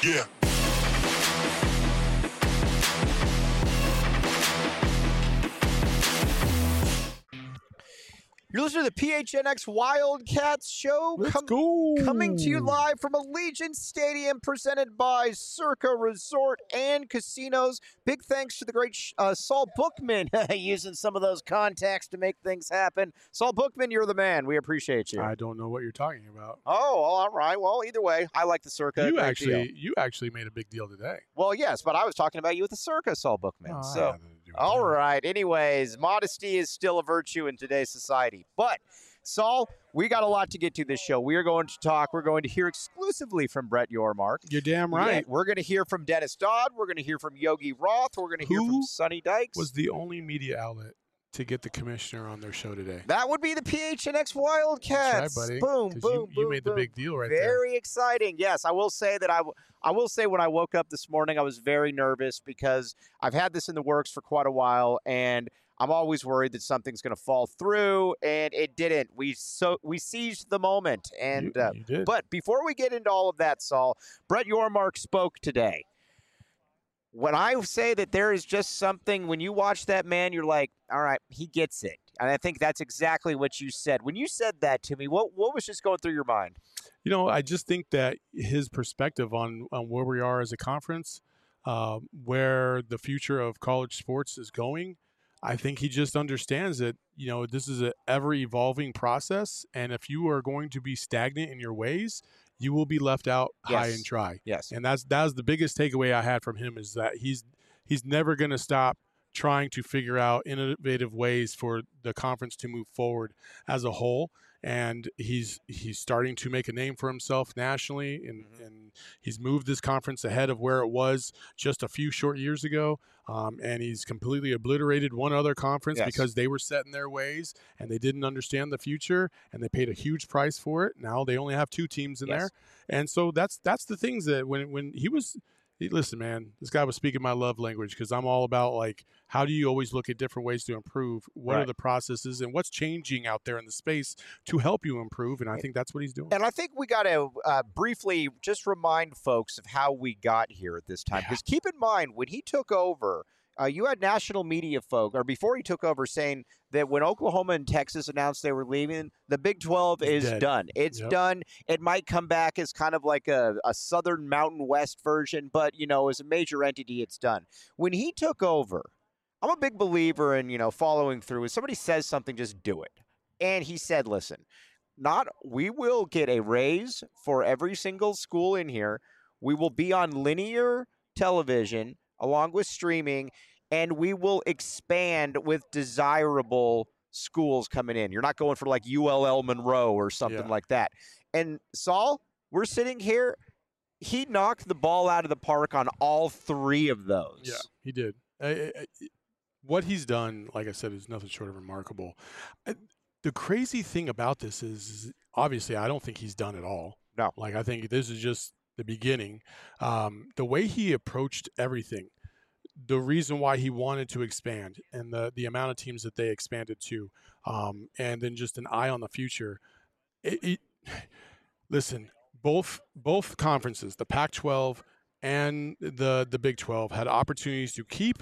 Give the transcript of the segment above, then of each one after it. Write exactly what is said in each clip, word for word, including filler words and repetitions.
Yeah. You're listening to the P H N X Wildcats show. Let's com- go. Coming to you live from Allegiant Stadium, presented by Circa Resort and Casinos. Big thanks to the great uh, Saul Bookman using some of those contacts to make things happen. Saul Bookman, you're the man. We appreciate you. I don't know what you're talking about. Oh, all right. Well, either way, I like the Circa. You Great actually, deal. you actually made a big deal today. Well, yes, but I was talking about you with the Circa, Saul Bookman. Oh, I so. had nothing to do with All that. right. Anyways, modesty is still a virtue in today's society. But, Saul, we got a lot to get to this show. We are going to talk. We're going to hear exclusively from Brett Yormark. You're damn Yeah, right. we're going to hear from Dennis Dodd. We're going to hear from Yogi Roth. We're going to hear Who from Sonny Dykes. Was the only media outlet to get the commissioner on their show today. That would be the P H N X Wildcats. That's right, buddy. Boom, 'Cause boom, you, boom. you made boom. the big deal right there. Very exciting. Yes, I will say that I, w- I will say when I woke up this morning, I was very nervous because I've had this in the works for quite a while, and I'm always worried that something's going to fall through, and it didn't. We so we seized the moment, and You- uh, you did. but before we get into all of that, Saul, Brett Yormark spoke today. When I say that there is just something, when you watch that man, you're like, all right, he gets it. And I think that's exactly what you said. When you said that to me, what what was just going through your mind? You know, I just think that his perspective on, on where we are as a conference, uh, where the future of college sports is going, I think he just understands that, you know, this is an ever-evolving process. And if you are going to be stagnant in your ways, you will be left out high Yes. and dry. Yes. And that's that's the biggest takeaway I had from him is that he's he's never going to stop trying to figure out innovative ways for the conference to move forward as a whole. And he's he's starting to make a name for himself nationally, and, Mm-hmm. and he's moved this conference ahead of where it was just a few short years ago. Um, and he's completely obliterated one other conference Yes. because they were set in their ways and they didn't understand the future, and they paid a huge price for it. Now they only have two teams in Yes. there, and so that's that's the things that when when he was. Hey, listen, man, this guy was speaking my love language because I'm all about, like, how do you always look at different ways to improve? What are Right. the processes and what's changing out there in the space to help you improve? And I think that's what he's doing. And I think we got to uh, briefly just remind folks of how we got here at this time. Yeah. Because keep in mind, when he took over, uh, you had national media folk, or before he took over, saying that when Oklahoma and Texas announced they were leaving, the Big twelve It's is dead. done. It's Yep. done. It might come back as kind of like a, a Southern Mountain West version, but, you know, as a major entity, it's done. When he took over, I'm a big believer in, you know, following through. When somebody says something, just do it. And he said, listen, not we will get a raise for every single school in here. We will be on linear television along with streaming, and we will expand with desirable schools coming in. You're not going for like U L L Monroe or something Yeah. like that. And Saul, we're sitting here. He knocked the ball out of the park on all three of those. Yeah, he did. I- I- I- what he's done, like I said, is nothing short of remarkable. I, the crazy thing about this is, is, obviously, I don't think he's done it all. No. Like, I think this is just the beginning. Um, the way he approached everything, the reason why he wanted to expand, and the, the amount of teams that they expanded to, um, and then just an eye on the future. It, it, listen, both both conferences, the Pac twelve and the the Big twelve, had opportunities to keep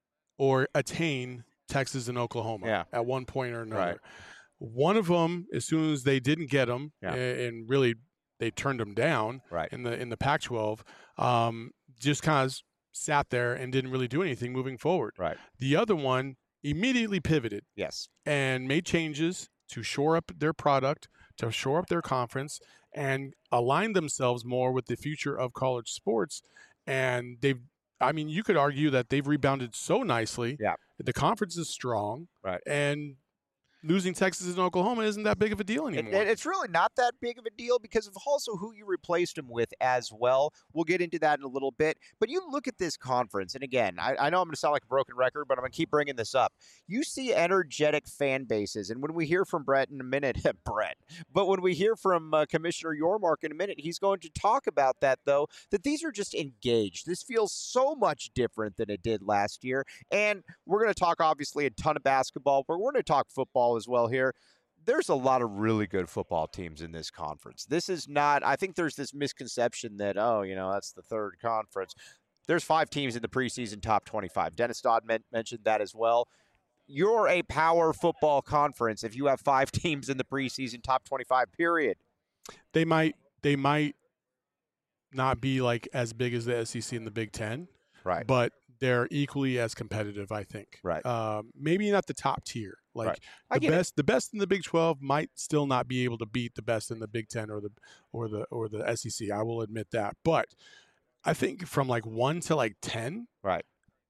or attain Texas and Oklahoma Yeah. at one point or another. Right. One of them, as soon as they didn't get them, Yeah. and really they turned them down Right. in the in the Pac twelve, um, just kind of sat there and didn't really do anything moving forward. Right. The other one immediately pivoted Yes. and made changes to shore up their product, to shore up their conference, and align themselves more with the future of college sports. And they've, I mean, you could argue that they've rebounded so nicely. Yeah. The conference is strong. Right. And losing Texas and Oklahoma isn't that big of a deal It, anymore. it- it's really not that big of a deal because of also who you replaced him with as well. We'll get into that in a little bit. But you look at this conference, and again, I, I know I'm going to sound like a broken record, but I'm going to keep bringing this up. You see energetic fan bases, and when we hear from Brett in a minute, Brett, but when we hear from uh, Commissioner Yormark in a minute, he's going to talk about that, though, that these are just engaged. This feels so much different than it did last year. And we're going to talk, obviously, a ton of basketball, but we're going to talk football as well here. there's a lot of really good football teams in this conference. This is not, I think there's this misconception that, oh, you know, that's the third conference. There's five teams in the preseason top twenty-five. Dennis Dodd men- mentioned that as well. You're a power football conference if you have five teams in the preseason top twenty-five, period. They might, they might not be like as big as the S E C and the Big Ten. Right. But they're equally as competitive, I think. Right. Um, maybe not the top tier. Like right. I the best, it. the best in the Big twelve might still not be able to beat the best in the Big Ten or the or the or the S E C. I will admit that. But I think from like one to like ten, right.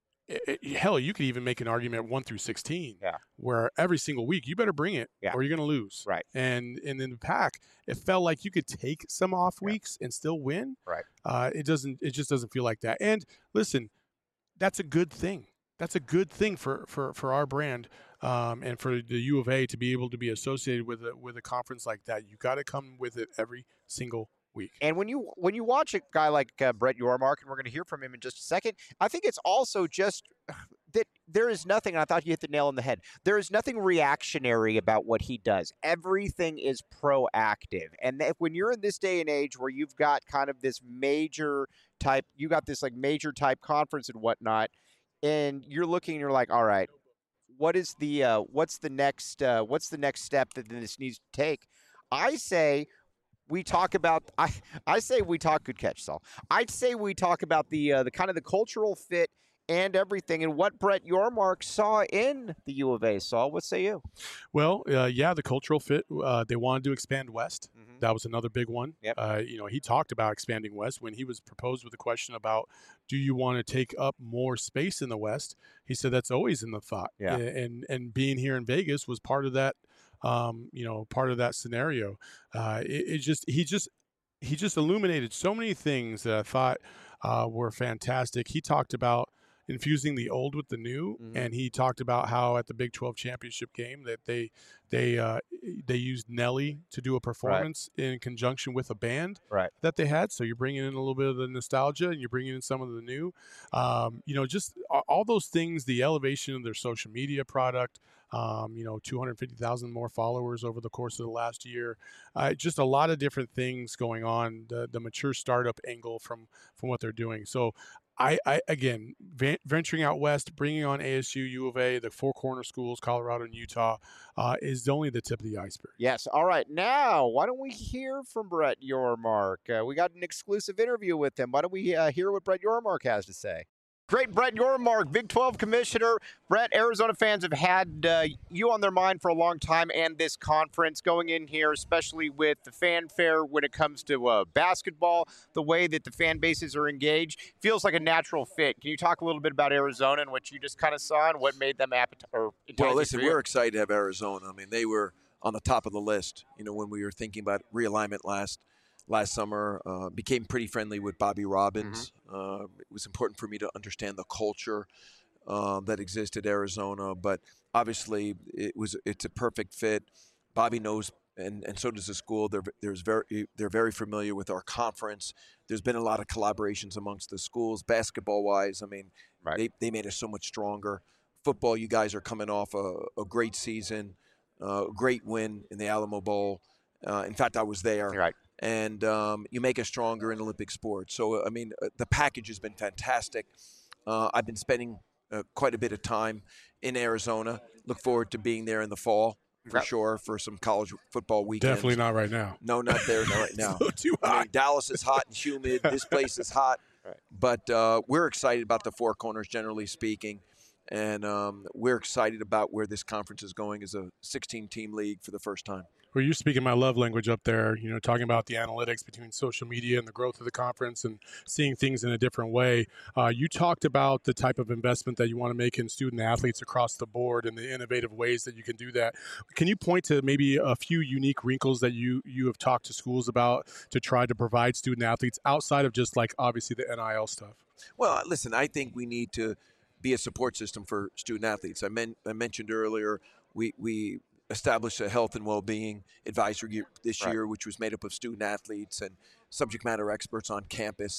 It, it, hell, you could even make an argument one through sixteen, yeah. where every single week you better bring it, yeah. or you're going to lose. Right. And and in the pack, it felt like you could take some off yeah. weeks and still win. Right. Uh, it doesn't. It just doesn't feel like that. And listen, that's a good thing. That's a good thing for for for our brand, um, and for the U of A to be able to be associated with a with a conference like that. You got to come with it every single week. And when you when you watch a guy like uh, Brett Yormark, and we're going to hear from him in just a second, I think it's also just that there is nothing, and I thought you hit the nail on the head, there is nothing reactionary about what he does. Everything is proactive. And that when you're in this day and age where you've got kind of this major type, you got this like major type conference and whatnot, and you're looking and you're like, all right, what is the uh, what's the next uh, what's the next step that this needs to take? I say we talk about I I say we talk good catch, Saul. I'd say we talk about the uh, the kind of the cultural fit and everything, and what Brett Yormark saw in the U of A. Saul, what say you? Well, uh, yeah, the cultural fit. Uh, they wanted to expand west. Mm-hmm. That was another big one. Yep. Uh, you know, he talked about expanding west when he was proposed with a question about, do you want to take up more space in the west? He said that's always in the thought. Yeah. And and being here in Vegas was part of that. Um, you know, part of that scenario. Uh, it, it just he just he just illuminated so many things that I thought uh, were fantastic. He talked about infusing the old with the new, mm-hmm. and he talked about how at the Big twelve championship game that they they uh, they used Nelly to do a performance right. in conjunction with a band right. that they had. So you're bringing in a little bit of the nostalgia, and you're bringing in some of the new. Um, you know, just all those things. The elevation of their social media product. Um, you know, two hundred fifty thousand more followers over the course of the last year. Uh, just a lot of different things going on. The, the mature startup angle from from what they're doing. So. I, I again venturing out west, bringing on A S U, U of A, the four corner schools, Colorado and Utah, uh, is only the tip of the iceberg. Yes. All right. Now, why don't we hear from Brett Yormark? Uh, we got an exclusive interview with him. Why don't we uh, hear what Brett Yormark has to say? Great, Brett Yormark, Big twelve commissioner. Brett, Arizona fans have had uh, you on their mind for a long time, and this conference going in here, especially with the fanfare when it comes to uh, basketball, the way that the fan bases are engaged, feels like a natural fit. Can you talk a little bit about Arizona and what you just kind of saw and what made them appetite? Well, listen, we're excited to have Arizona. I mean, they were on the top of the list, you know, when we were thinking about realignment last last summer. Uh, became pretty friendly with Bobby Robbins. Mm-hmm. Uh, it was important for me to understand the culture uh, that existed at Arizona, but obviously it was it's a perfect fit. Bobby knows, and, and so does the school. They're there's very they're very familiar with our conference. There's been a lot of collaborations amongst the schools, basketball wise. I mean, right. they they made us so much stronger. Football, you guys are coming off a, a great season, a uh, great win in the Alamo Bowl. Uh, in fact, I was there. Right. And um, you make us stronger in Olympic sports. So, I mean, uh, the package has been fantastic. Uh, I've been spending uh, quite a bit of time in Arizona. Look forward to being there in the fall for yep. sure for some college football weekends. Definitely not right now. No, not there not right now. So too hot. I mean, Dallas is hot and humid. This place is hot. Right. But uh, we're excited about the Four Corners, generally speaking. And um, we're excited about where this conference is going as a sixteen-team league for the first time. Well, you're speaking my love language up there, you know, talking about the analytics between social media and the growth of the conference and seeing things in a different way. Uh, you talked about the type of investment that you want to make in student athletes across the board and the innovative ways that you can do that. Can you point to maybe a few unique wrinkles that you, you have talked to schools about to try to provide student athletes outside of just like obviously the N I L stuff? Well, listen, I think we need to be a support system for student athletes. I, men- I mentioned earlier we we established a health and well-being advisory group this right. year, which was made up of student athletes and subject matter experts on campus.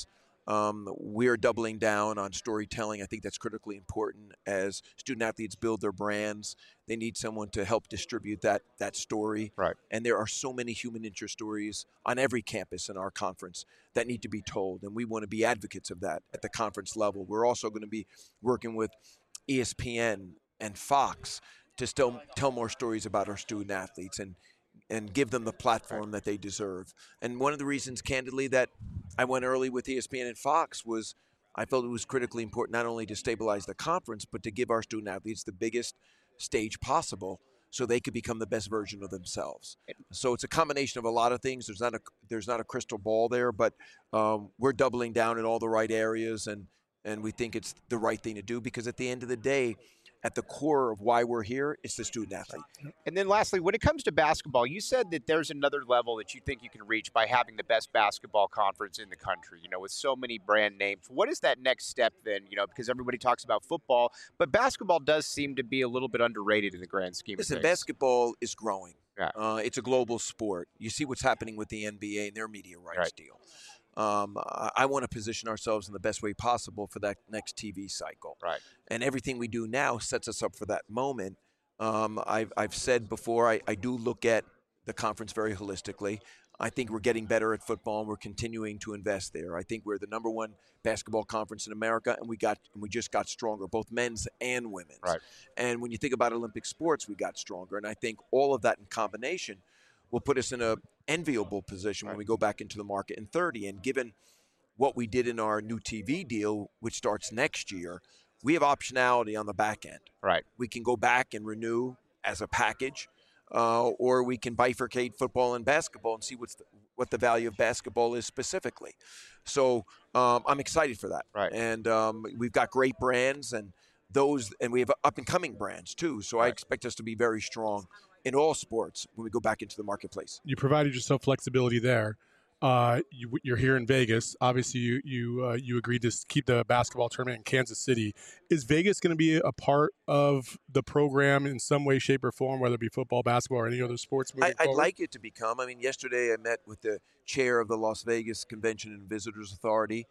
Um, we're doubling down on storytelling. I think that's critically important as student athletes build their brands. They need someone to help distribute that that story. Right. And there are so many human interest stories on every campus in our conference that need to be told, and we want to be advocates of that at the conference level. We're also going to be working with E S P N and Fox to still tell more stories about our student athletes and and give them the platform that they deserve. And one of the reasons, candidly, that I went early with E S P N and Fox was I felt it was critically important not only to stabilize the conference, but to give our student athletes the biggest stage possible so they could become the best version of themselves. So it's a combination of a lot of things. There's not a there's not a crystal ball there, but um, we're doubling down in all the right areas, and and we think it's the right thing to do because at the end of the day, at the core of why we're here, it's the student athlete. And then lastly, when it comes to basketball, you said that there's another level that you think you can reach by having the best basketball conference in the country, you know, with so many brand names. What is that next step then, you know, because everybody talks about football, but basketball does seem to be a little bit underrated in the grand scheme Listen, of things. basketball is growing. Yeah. Uh, it's a global sport. You see what's happening with the N B A and their media rights Right. deal. Um, I, I want to position ourselves in the best way possible for that next T V cycle. Right. And everything we do now sets us up for that moment. Um, I've, I've said before, I, I do look at the conference very holistically. I think we're getting better at football, and we're continuing to invest there. I think we're the number one basketball conference in America, and we got and we just got stronger, both men's and women's. Right. And when you think about Olympic sports, we got stronger. And I think all of that in combination will put us in a enviable position when we go back into the market in thirty. And given what we did in our new T V deal, which starts next year, we have optionality on the back end. Right. We can go back and renew as a package, uh, or we can bifurcate football and basketball and see what's the, what the value of basketball is specifically. So um, I'm excited for that. Right. And um, we've got great brands and those, and we have up and coming brands too. So I Right. expect us to be very strong in all sports when we go back into the marketplace. You provided yourself flexibility there. Uh, you, you're here in Vegas. Obviously, you you uh, you agreed to keep the basketball tournament in Kansas City. Is Vegas going to be a part of the program in some way, shape, or form, whether it be football, basketball, or any other sports moving I, I'd forward? like it to become. I mean, yesterday I met with the chair of the Las Vegas Convention and Visitors Authority.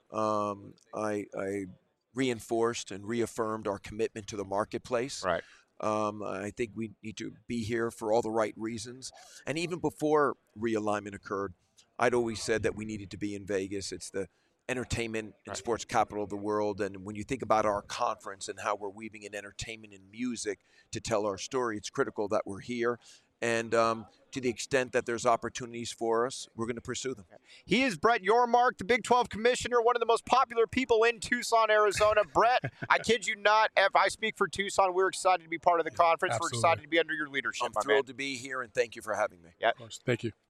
Um, I, I reinforced and reaffirmed our commitment to the marketplace. Right. Um, I think we need to be here for all the right reasons. And even before realignment occurred, I'd always said that we needed to be in Vegas. It's the entertainment and Right. sports capital of the world. And when you think about our conference and how we're weaving in entertainment and music to tell our story, it's critical that we're here. And um, to the extent that there's opportunities for us, we're going to pursue them. He is Brett Yormark, the Big twelve commissioner, one of the most popular people in Tucson, Arizona. Brett, I kid you not, if I speak for Tucson, we're excited to be part of the conference. Absolutely. We're excited to be under your leadership, I'm my thrilled man. to be here, and thank you for having me. Of course. Thank you.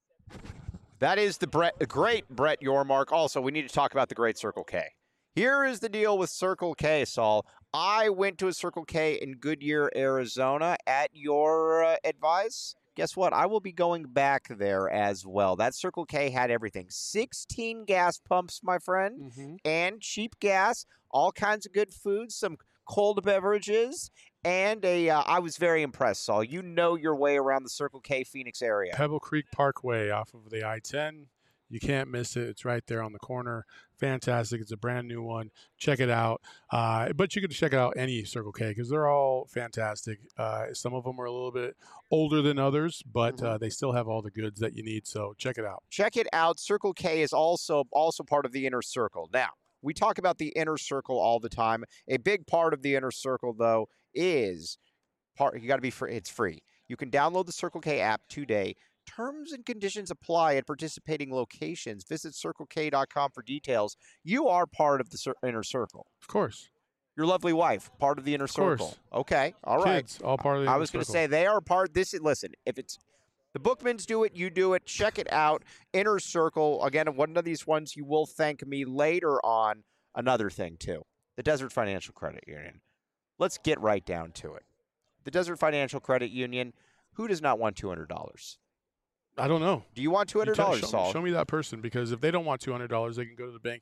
That is the Brett, the great Brett Yormark. Also, we need to talk about the great Circle K. Here is the deal with Circle K, Saul. I went to a Circle K in Goodyear, Arizona at your uh, advice. Guess what? I will be going back there as well. That Circle K had everything. sixteen gas pumps, my friend, Mm-hmm. and cheap gas, all kinds of good food, some cold beverages, and a. Uh, I was very impressed, Saul. You know your way around the Circle K Phoenix area. Pebble Creek Parkway off of the I ten. You can't miss it. It's right there on the corner. Fantastic. It's a brand new one. Check it out. Uh, but you can check out any Circle K because they're all fantastic. Uh, some of them are a little bit older than others, but uh, they still have all the goods that you need. So check it out. Check it out. Circle K is also also part of the Inner Circle. Now, we talk about the Inner Circle all the time. A big part of the Inner Circle, though, is part. You got to be free. It's free. You can download the Circle K app today. Terms and conditions apply at participating locations. Visit circle k dot com for details. You are part of the cir- Inner Circle. Of course. Your lovely wife, part of the Inner Of course. Circle. Okay, all right. Kids, all part of the I Inner was going to Circle. say they are part. This is listen. If it's the Bookmans do it, you do it. Check it out. Inner Circle again. One of these ones you will thank me later on. Another thing too, the Desert Financial Credit Union. Let's get right down to it. The Desert Financial Credit Union. Who does not want two hundred dollars? I don't know. Do you want two You hundred tell- dollars, show, Saul? show me that person because if they don't want two hundred dollars, they can go to the bank,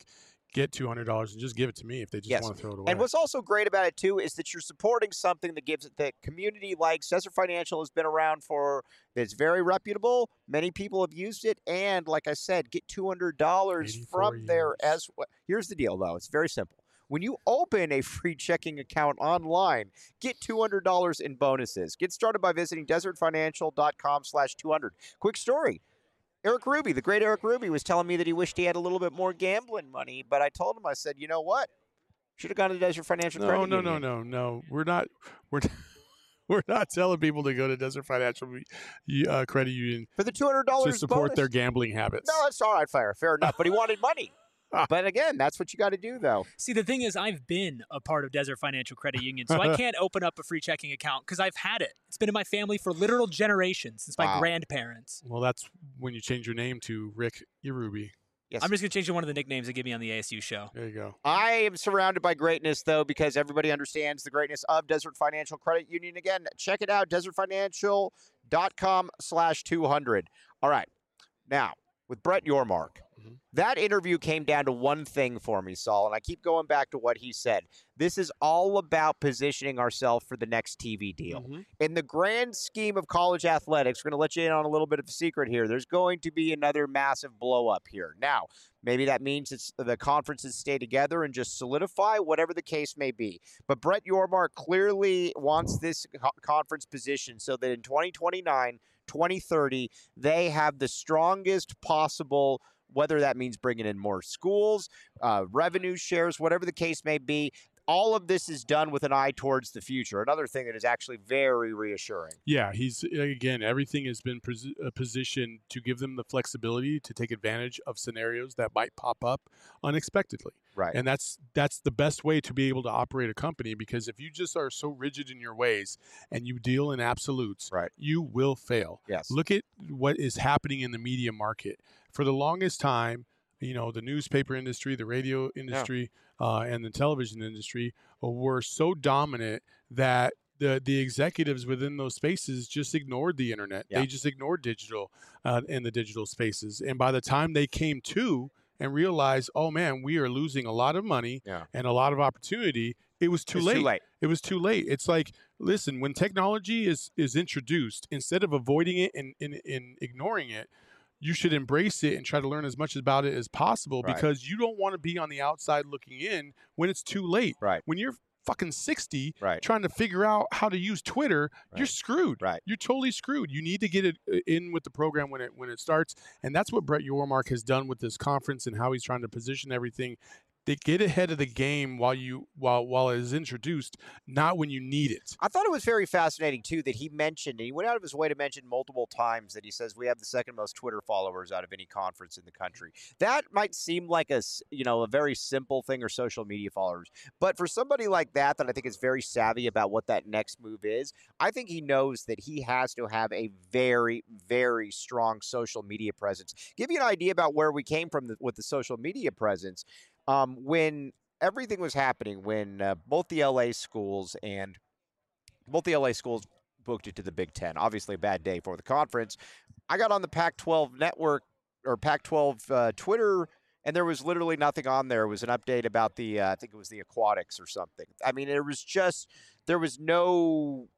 get two hundred dollars and just give it to me if they just Yes. want to throw it away. And what's also great about it, too, is that you're supporting something that gives it that community likes. Desert Financial has been around for, it's very reputable. Many people have used it. And like I said, get two hundred dollars from there as well. Here's the deal, though. It's very simple. When you open a free checking account online, get two hundred dollars in bonuses. Get started by visiting desertfinancial.com slash 200. Quick story. Eric Ruby, the great Eric Ruby, was telling me that he wished he had a little bit more gambling money, but I told him, I said, you know what? Should have gone to Desert Financial no, Credit no, Union. No, no, no, no. We're not. We're. We're not telling people to go to Desert Financial uh, Credit Union for the two hundred dollars to support bonus. their gambling habits. No, that's all right, fair, fair enough. But he wanted money. But again, that's what you got to do, though. See, the thing is, I've been a part of Desert Financial Credit Union, so I can't open up a free checking account because I've had it. It's been in my family for literal generations, since my Wow. grandparents. Well, that's when you change your name to Rick Irubi. Yes. I'm just going to change to one of the nicknames they give me on the A S U show. There you go. I am surrounded by greatness, though, because everybody understands the greatness of Desert Financial Credit Union. Again, check it out, desertfinancial.com slash 200. All right. Now, with Brett Yormark, mm-hmm. that interview came down to one thing for me, Saul, and I keep going back to what he said. This is all about positioning ourselves for the next T V deal. Mm-hmm. In the grand scheme of college athletics, we're going to let you in on a little bit of a secret here. There's going to be another massive blow up here. Now, maybe that means it's the conferences stay together and just solidify, whatever the case may be. But Brett Yormark clearly wants this co- conference position so that in twenty twenty-nine, twenty thirty, they have the strongest possible, whether that means bringing in more schools, uh, revenue shares, whatever the case may be. All of this is done with an eye towards the future. Another thing that is actually very reassuring. Yeah, he's, again, everything has been pos- uh, positioned to give them the flexibility to take advantage of scenarios that might pop up unexpectedly. Right. And that's that's the best way to be able to operate a company, because if you just are so rigid in your ways and you deal in absolutes, right. you will fail. Yes. Look at what is happening in the media market. For the longest time, you know, the newspaper industry, the radio industry, yeah. uh, and the television industry were so dominant that the the executives within those spaces just ignored the internet. Yeah. They just ignored digital uh, in the digital spaces. And by the time they came to and realized, oh man, we are losing a lot of money yeah. and a lot of opportunity, it was too it's late. too late. It was too late. It's like, listen, when technology is is introduced, instead of avoiding it and, and, and ignoring it, you should embrace it and try to learn as much about it as possible, right. because you don't want to be on the outside looking in when it's too late. Right. When you're fucking sixty right. trying to figure out how to use Twitter, right. you're screwed. Right. You're totally screwed. You need to get it in with the program when it when it starts. And that's what Brett Yormark has done with this conference and how he's trying to position everything. They get ahead of the game while you while while it is introduced, not when you need it. I thought it was very fascinating too that he mentioned, and he went out of his way to mention multiple times that he says we have the second most Twitter followers out of any conference in the country. That might seem like a you know a very simple thing, or social media followers, but for somebody like that, that I think is very savvy about what that next move is, I think he knows that he has to have a very very strong social media presence. Give you an idea about where we came from the, with the social media presence. Um, when everything was happening, when uh, both the L A schools and both the L A schools booked it to the Big Ten, obviously a bad day for the conference, I got on the Pac twelve network or Pac twelve uh, Twitter, and there was literally nothing on there. It was an update about the, uh, I think it was the aquatics or something. I mean, it was just, there was no...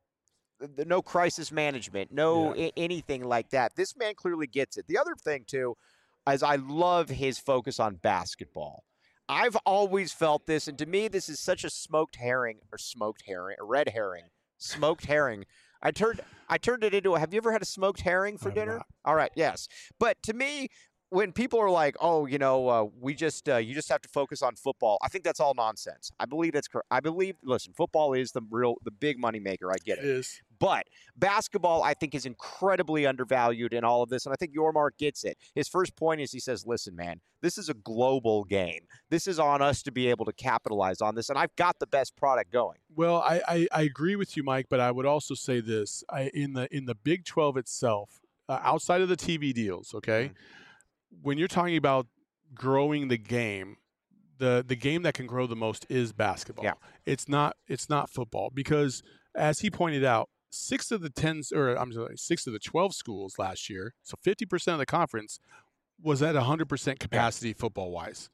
no crisis management, no yeah. I- anything like that. This man clearly gets it. The other thing, too, is I love his focus on basketball. I've always felt this, and to me, this is such a smoked herring, or smoked herring, a red herring, smoked herring. I turned, I turned it into a, have you ever had a smoked herring for I'm dinner? not. All right, yes. But to me, when people are like, oh, you know, uh, we just, uh, you just have to focus on football, I think that's all nonsense. I believe that's correct. I believe, listen, football is the real, the big money maker. I get it. It is. But basketball, I think, is incredibly undervalued in all of this, and I think Yormark gets it. His first point is he says, listen, man, this is a global game. This is on us to be able to capitalize on this, and I've got the best product going. Well, I, I, I agree with you, Mike, but I would also say this. I, in the in the Big twelve itself, uh, outside of the T V deals, okay, mm-hmm. when you're talking about growing the game, the, the game that can grow the most is basketball. Yeah. It's not it's not football, because, as he pointed out, Six of the ten, or I'm sorry, six of the twelve schools last year, so fifty percent of the conference was at one hundred percent capacity yeah. football-wise.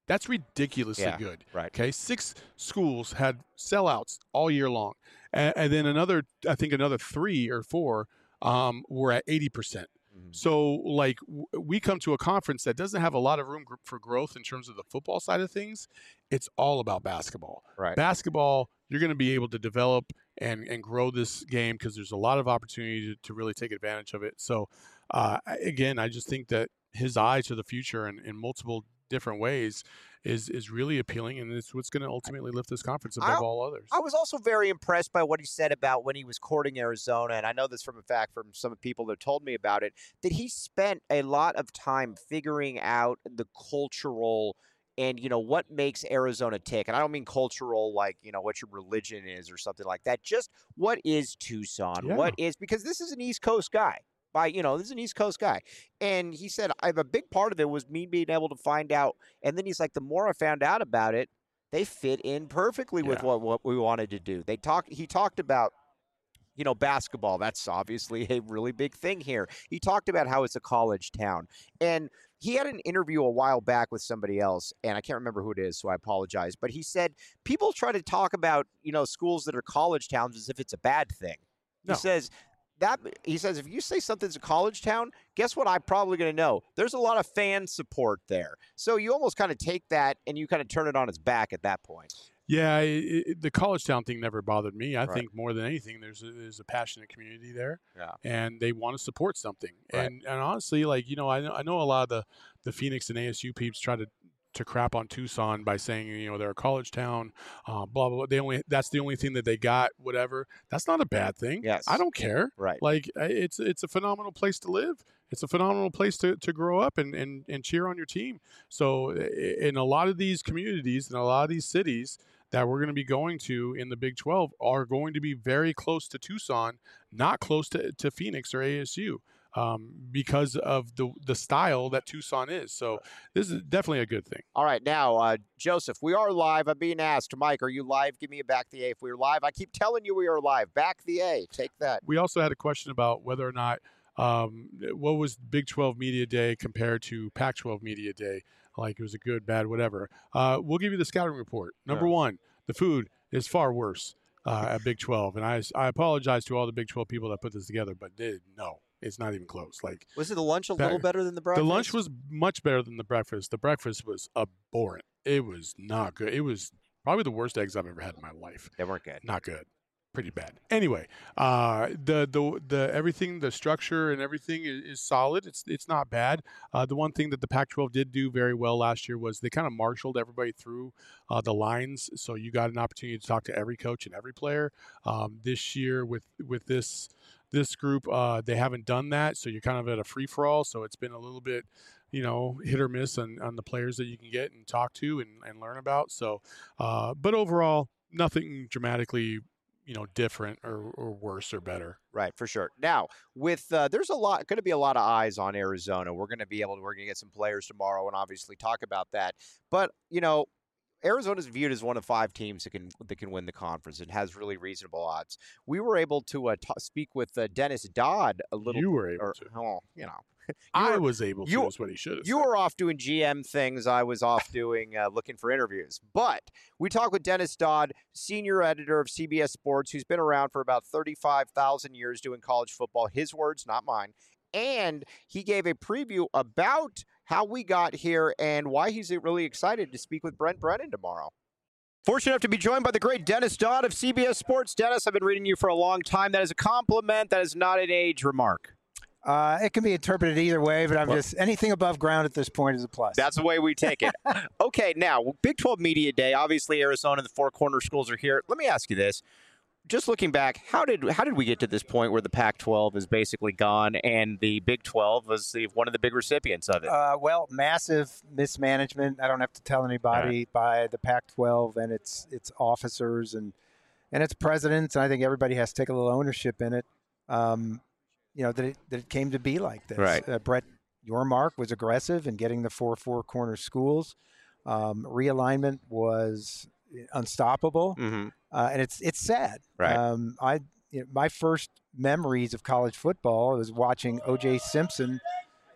That's ridiculously Yeah, good. right. Okay, six schools had sellouts all year long, and, and then another, I think another three or four um, were at eighty percent. Mhm. So, like, w- we come to a conference that doesn't have a lot of room gr- for growth in terms of the football side of things. It's all about basketball. Right. Basketball, you're going to be able to develop and, and grow this game because there's a lot of opportunity to, to really take advantage of it. So, uh, I- again, I just think that his eye to the future in, in multiple different ways is is really appealing, and it's what's going to ultimately lift this conference above I- all others. I was also very impressed by what he said about when he was courting Arizona, and I know this from a fact from some people that told me about it, that he spent a lot of time figuring out the cultural and, you know, what makes Arizona tick. And I don't mean cultural like, you know, what your religion is or something like that. Just what is Tucson? Yeah. What is, because this is an East Coast guy. By, you know, this is an East Coast guy. And he said, I have a big part of it was me being able to find out. And then he's like, the more I found out about it, they fit in perfectly with Yeah. what, what we wanted to do. They talked. He talked about, you know, basketball. That's obviously a really big thing here. He talked about how it's a college town. And he had an interview a while back with somebody else, and I can't remember who it is, so I apologize. But he said people try to talk about, you know, schools that are college towns as if it's a bad thing. No. He says that he says if you say something's a college town, guess what? I'm probably going to know. There's a lot of fan support there. So you almost kind of take that and you kind of turn it on its back at that point. Yeah, it, it, the college town thing never bothered me. I Right. think more than anything, there's a, there's a passionate community there, Yeah. and they want to support something. Right. And and honestly, like you know, I know I know a lot of the, the Phoenix and A S U peeps try to to crap on Tucson by saying you know they're a college town, uh, blah blah blah. They only that's the only thing that they got. Whatever. That's not a bad thing. Yes. I don't care. Right. Like I- it's it's a phenomenal place to live. It's a phenomenal place to, to grow up and, and, and cheer on your team. So i- in a lot of these communities and a lot of these cities that we're going to be going to in the Big twelve are going to be very close to Tucson, not close to, to Phoenix or A S U um, because of the the style that Tucson is. So this is definitely a good thing. All right, now, uh, Joseph, we are live. I'm being asked. Mike, are you live? Give me a back the A if we are live. I keep telling you we are live. Back the A. Take that. We also had a question about whether or not um, what was Big twelve Media Day compared to Pac twelve Media Day. Like it was a good, bad, whatever. Uh, we'll give you the scouting report. Number Yeah. one, the food is far worse uh, at Big twelve, and I I apologize to all the Big twelve people that put this together, but they, no, it's not even close. Like Was it the lunch a Back- little better than the breakfast? the lunch was much better than the breakfast. The breakfast was abhorrent. It was not good. It was probably the worst eggs I've ever had in my life. They weren't good. Not good. Pretty bad. Anyway, uh, the the the everything, the structure and everything is, is solid. It's it's not bad. Uh, the one thing that the Pac twelve did do very well last year was they kind of marshaled everybody through uh, the lines, so you got an opportunity to talk to every coach and every player. Um, this year with with this this group, uh, they haven't done that, so you're kind of at a free for all. So it's been a little bit, you know, hit or miss on, on the players that you can get and talk to and, and learn about. So, uh, but overall, nothing dramatically, you know, different or, or worse or better. Right, for sure. Now, with uh, there's a lot going to be a lot of eyes on Arizona. We're going to be able to we're going to get some players tomorrow and obviously talk about that. But, you know, Arizona's viewed as one of five teams that can that can win the conference and has really reasonable odds. We were able to uh, t- speak with uh, Dennis Dodd a little You were able or, to. oh, you know. I were- was able to. you- is what he should have You said. were off doing G M things. I was off doing uh, looking for interviews. But we talked with Dennis Dodd, senior editor of C B S Sports, who's been around for about thirty-five thousand years doing college football. His words, not mine. And he gave a preview about how we got here and why he's really excited to speak with Brent Brennan tomorrow. Fortunate enough to be joined by the great Dennis Dodd of C B S Sports. Dennis, I've been reading you for a long time. That is a compliment. That is not an age remark. Uh, it can be interpreted either way, but I'm just anything above ground at this point is a plus. That's the way we take it. Okay, now, Big twelve Media Day. Obviously, Arizona, the four corner schools are here. Let me ask you this. Just looking back, how did how did we get to this point where the Pac twelve is basically gone and the Big twelve was the, one of the big recipients of it? Uh, well, massive mismanagement. I don't have to tell anybody by the Pac twelve and its its officers and and its presidents. And I think everybody has to take a little ownership in it. Um, you know that it that it came to be like this. Right. Uh, Brett Yormark was aggressive in getting the four four corner schools. Um, realignment was unstoppable. mm-hmm. Uh, and it's it's sad. Right. Um, I you know, my first memories of college football was watching O J Simpson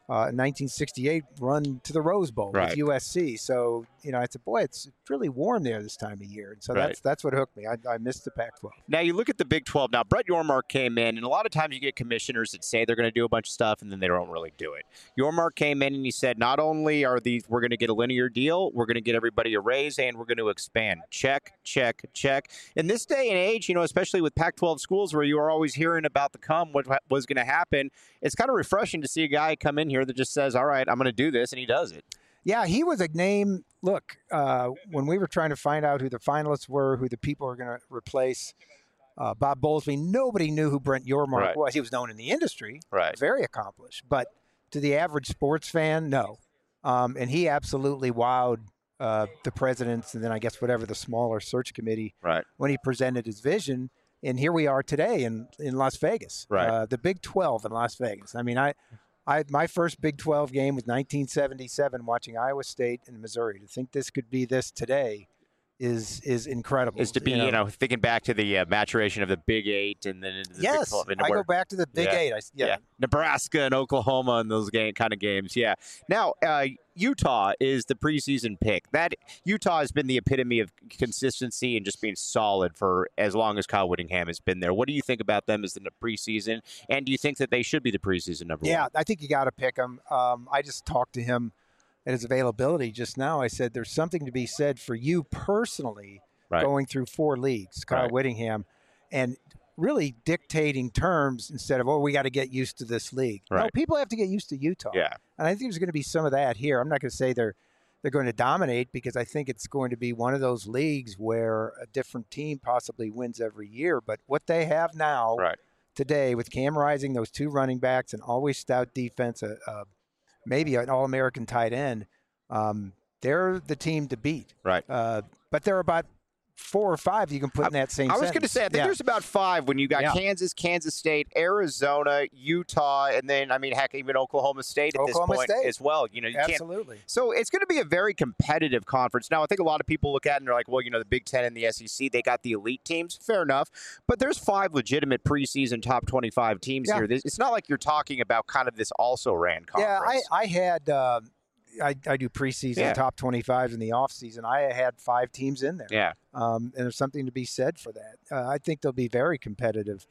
uh, in nineteen sixty-eight run to the Rose Bowl Right. with U S C. So, you know, I said, boy, it's really warm there this time of year. And so Right. that's that's what hooked me. I, I missed the Pac twelve. Now you look at the Big twelve. Now Brett Yormark came in, and a lot of times you get commissioners that say they're going to do a bunch of stuff, and then they don't really do it. Yormark came in and he said, not only are these we're going to get a linear deal, we're going to get everybody a raise, and we're going to expand. Check, check, check. In this day and age, you know, especially with Pac twelve schools where you are always hearing about the come, what was going to happen, it's kind of refreshing to see a guy come in here that just says, all right, I'm going to do this, and he does it. Yeah, he was a name. Look, uh, when we were trying to find out who the finalists were, who the people were going to replace uh, Bob Bowlesby, nobody knew who Brent Yormark Right. was. He was known in the industry, Right. very accomplished. But to the average sports fan, no. Um, and he absolutely wowed uh, the presidents and then I guess whatever the smaller search committee Right. when he presented his vision. And here we are today in, in Las Vegas, Right. uh, the Big twelve in Las Vegas. I mean, I, I my first Big twelve game was nineteen seventy-seven, watching Iowa State and Missouri. To think this could be this today is is incredible. Is to be, you know, thinking back to the uh, maturation of the Big Eight and then into the yes, Big twelve. into I where- go back to the Big Yeah. Eight. I, yeah. Yeah. Nebraska and Oklahoma and those game, kind of games. Yeah. Now, uh, Utah is the preseason pick. That Utah has been the epitome of consistency and just being solid for as long as Kyle Whittingham has been there. What do you think about them as the preseason? And do you think that they should be the preseason number Yeah, one? I think you got to pick him. Um, I just talked to him at his availability just now. I said, there's something to be said for you personally Right. going through four leagues, Kyle Right. Whittingham, and really dictating terms instead of, oh, we got to get used to this league. No, Right. people have to get used to Utah. Yeah. And I think there's going to be some of that here. I'm not going to say they're they're going to dominate because I think it's going to be one of those leagues where a different team possibly wins every year. But what they have now Right. today with Cam Rising, those two running backs, and always stout defense, uh, uh, maybe an All-American tight end, um, they're the team to beat. Right. Uh, but they're about four or five you can put in that same I was going to sentence. say, I think Yeah. there's about five when you got Yeah. Kansas, Kansas State, Arizona, Utah, and then, I mean, heck, even Oklahoma State at Oklahoma this point State. as well. You know, you can't Absolutely. So it's going to be a very competitive conference. Now, I think a lot of people look at it and they're like, well, you know, the Big Ten and the S E C, they got the elite teams. Fair enough. But there's five legitimate preseason top twenty-five teams Yeah. here. This- It's not like you're talking about kind of this also-ran Yeah, conference. I, I had uh, I, I do preseason Yeah. top twenty-fives in the offseason. I had five teams in there. Yeah. Um, and there's something to be said for that. Uh, I think they'll be very competitive.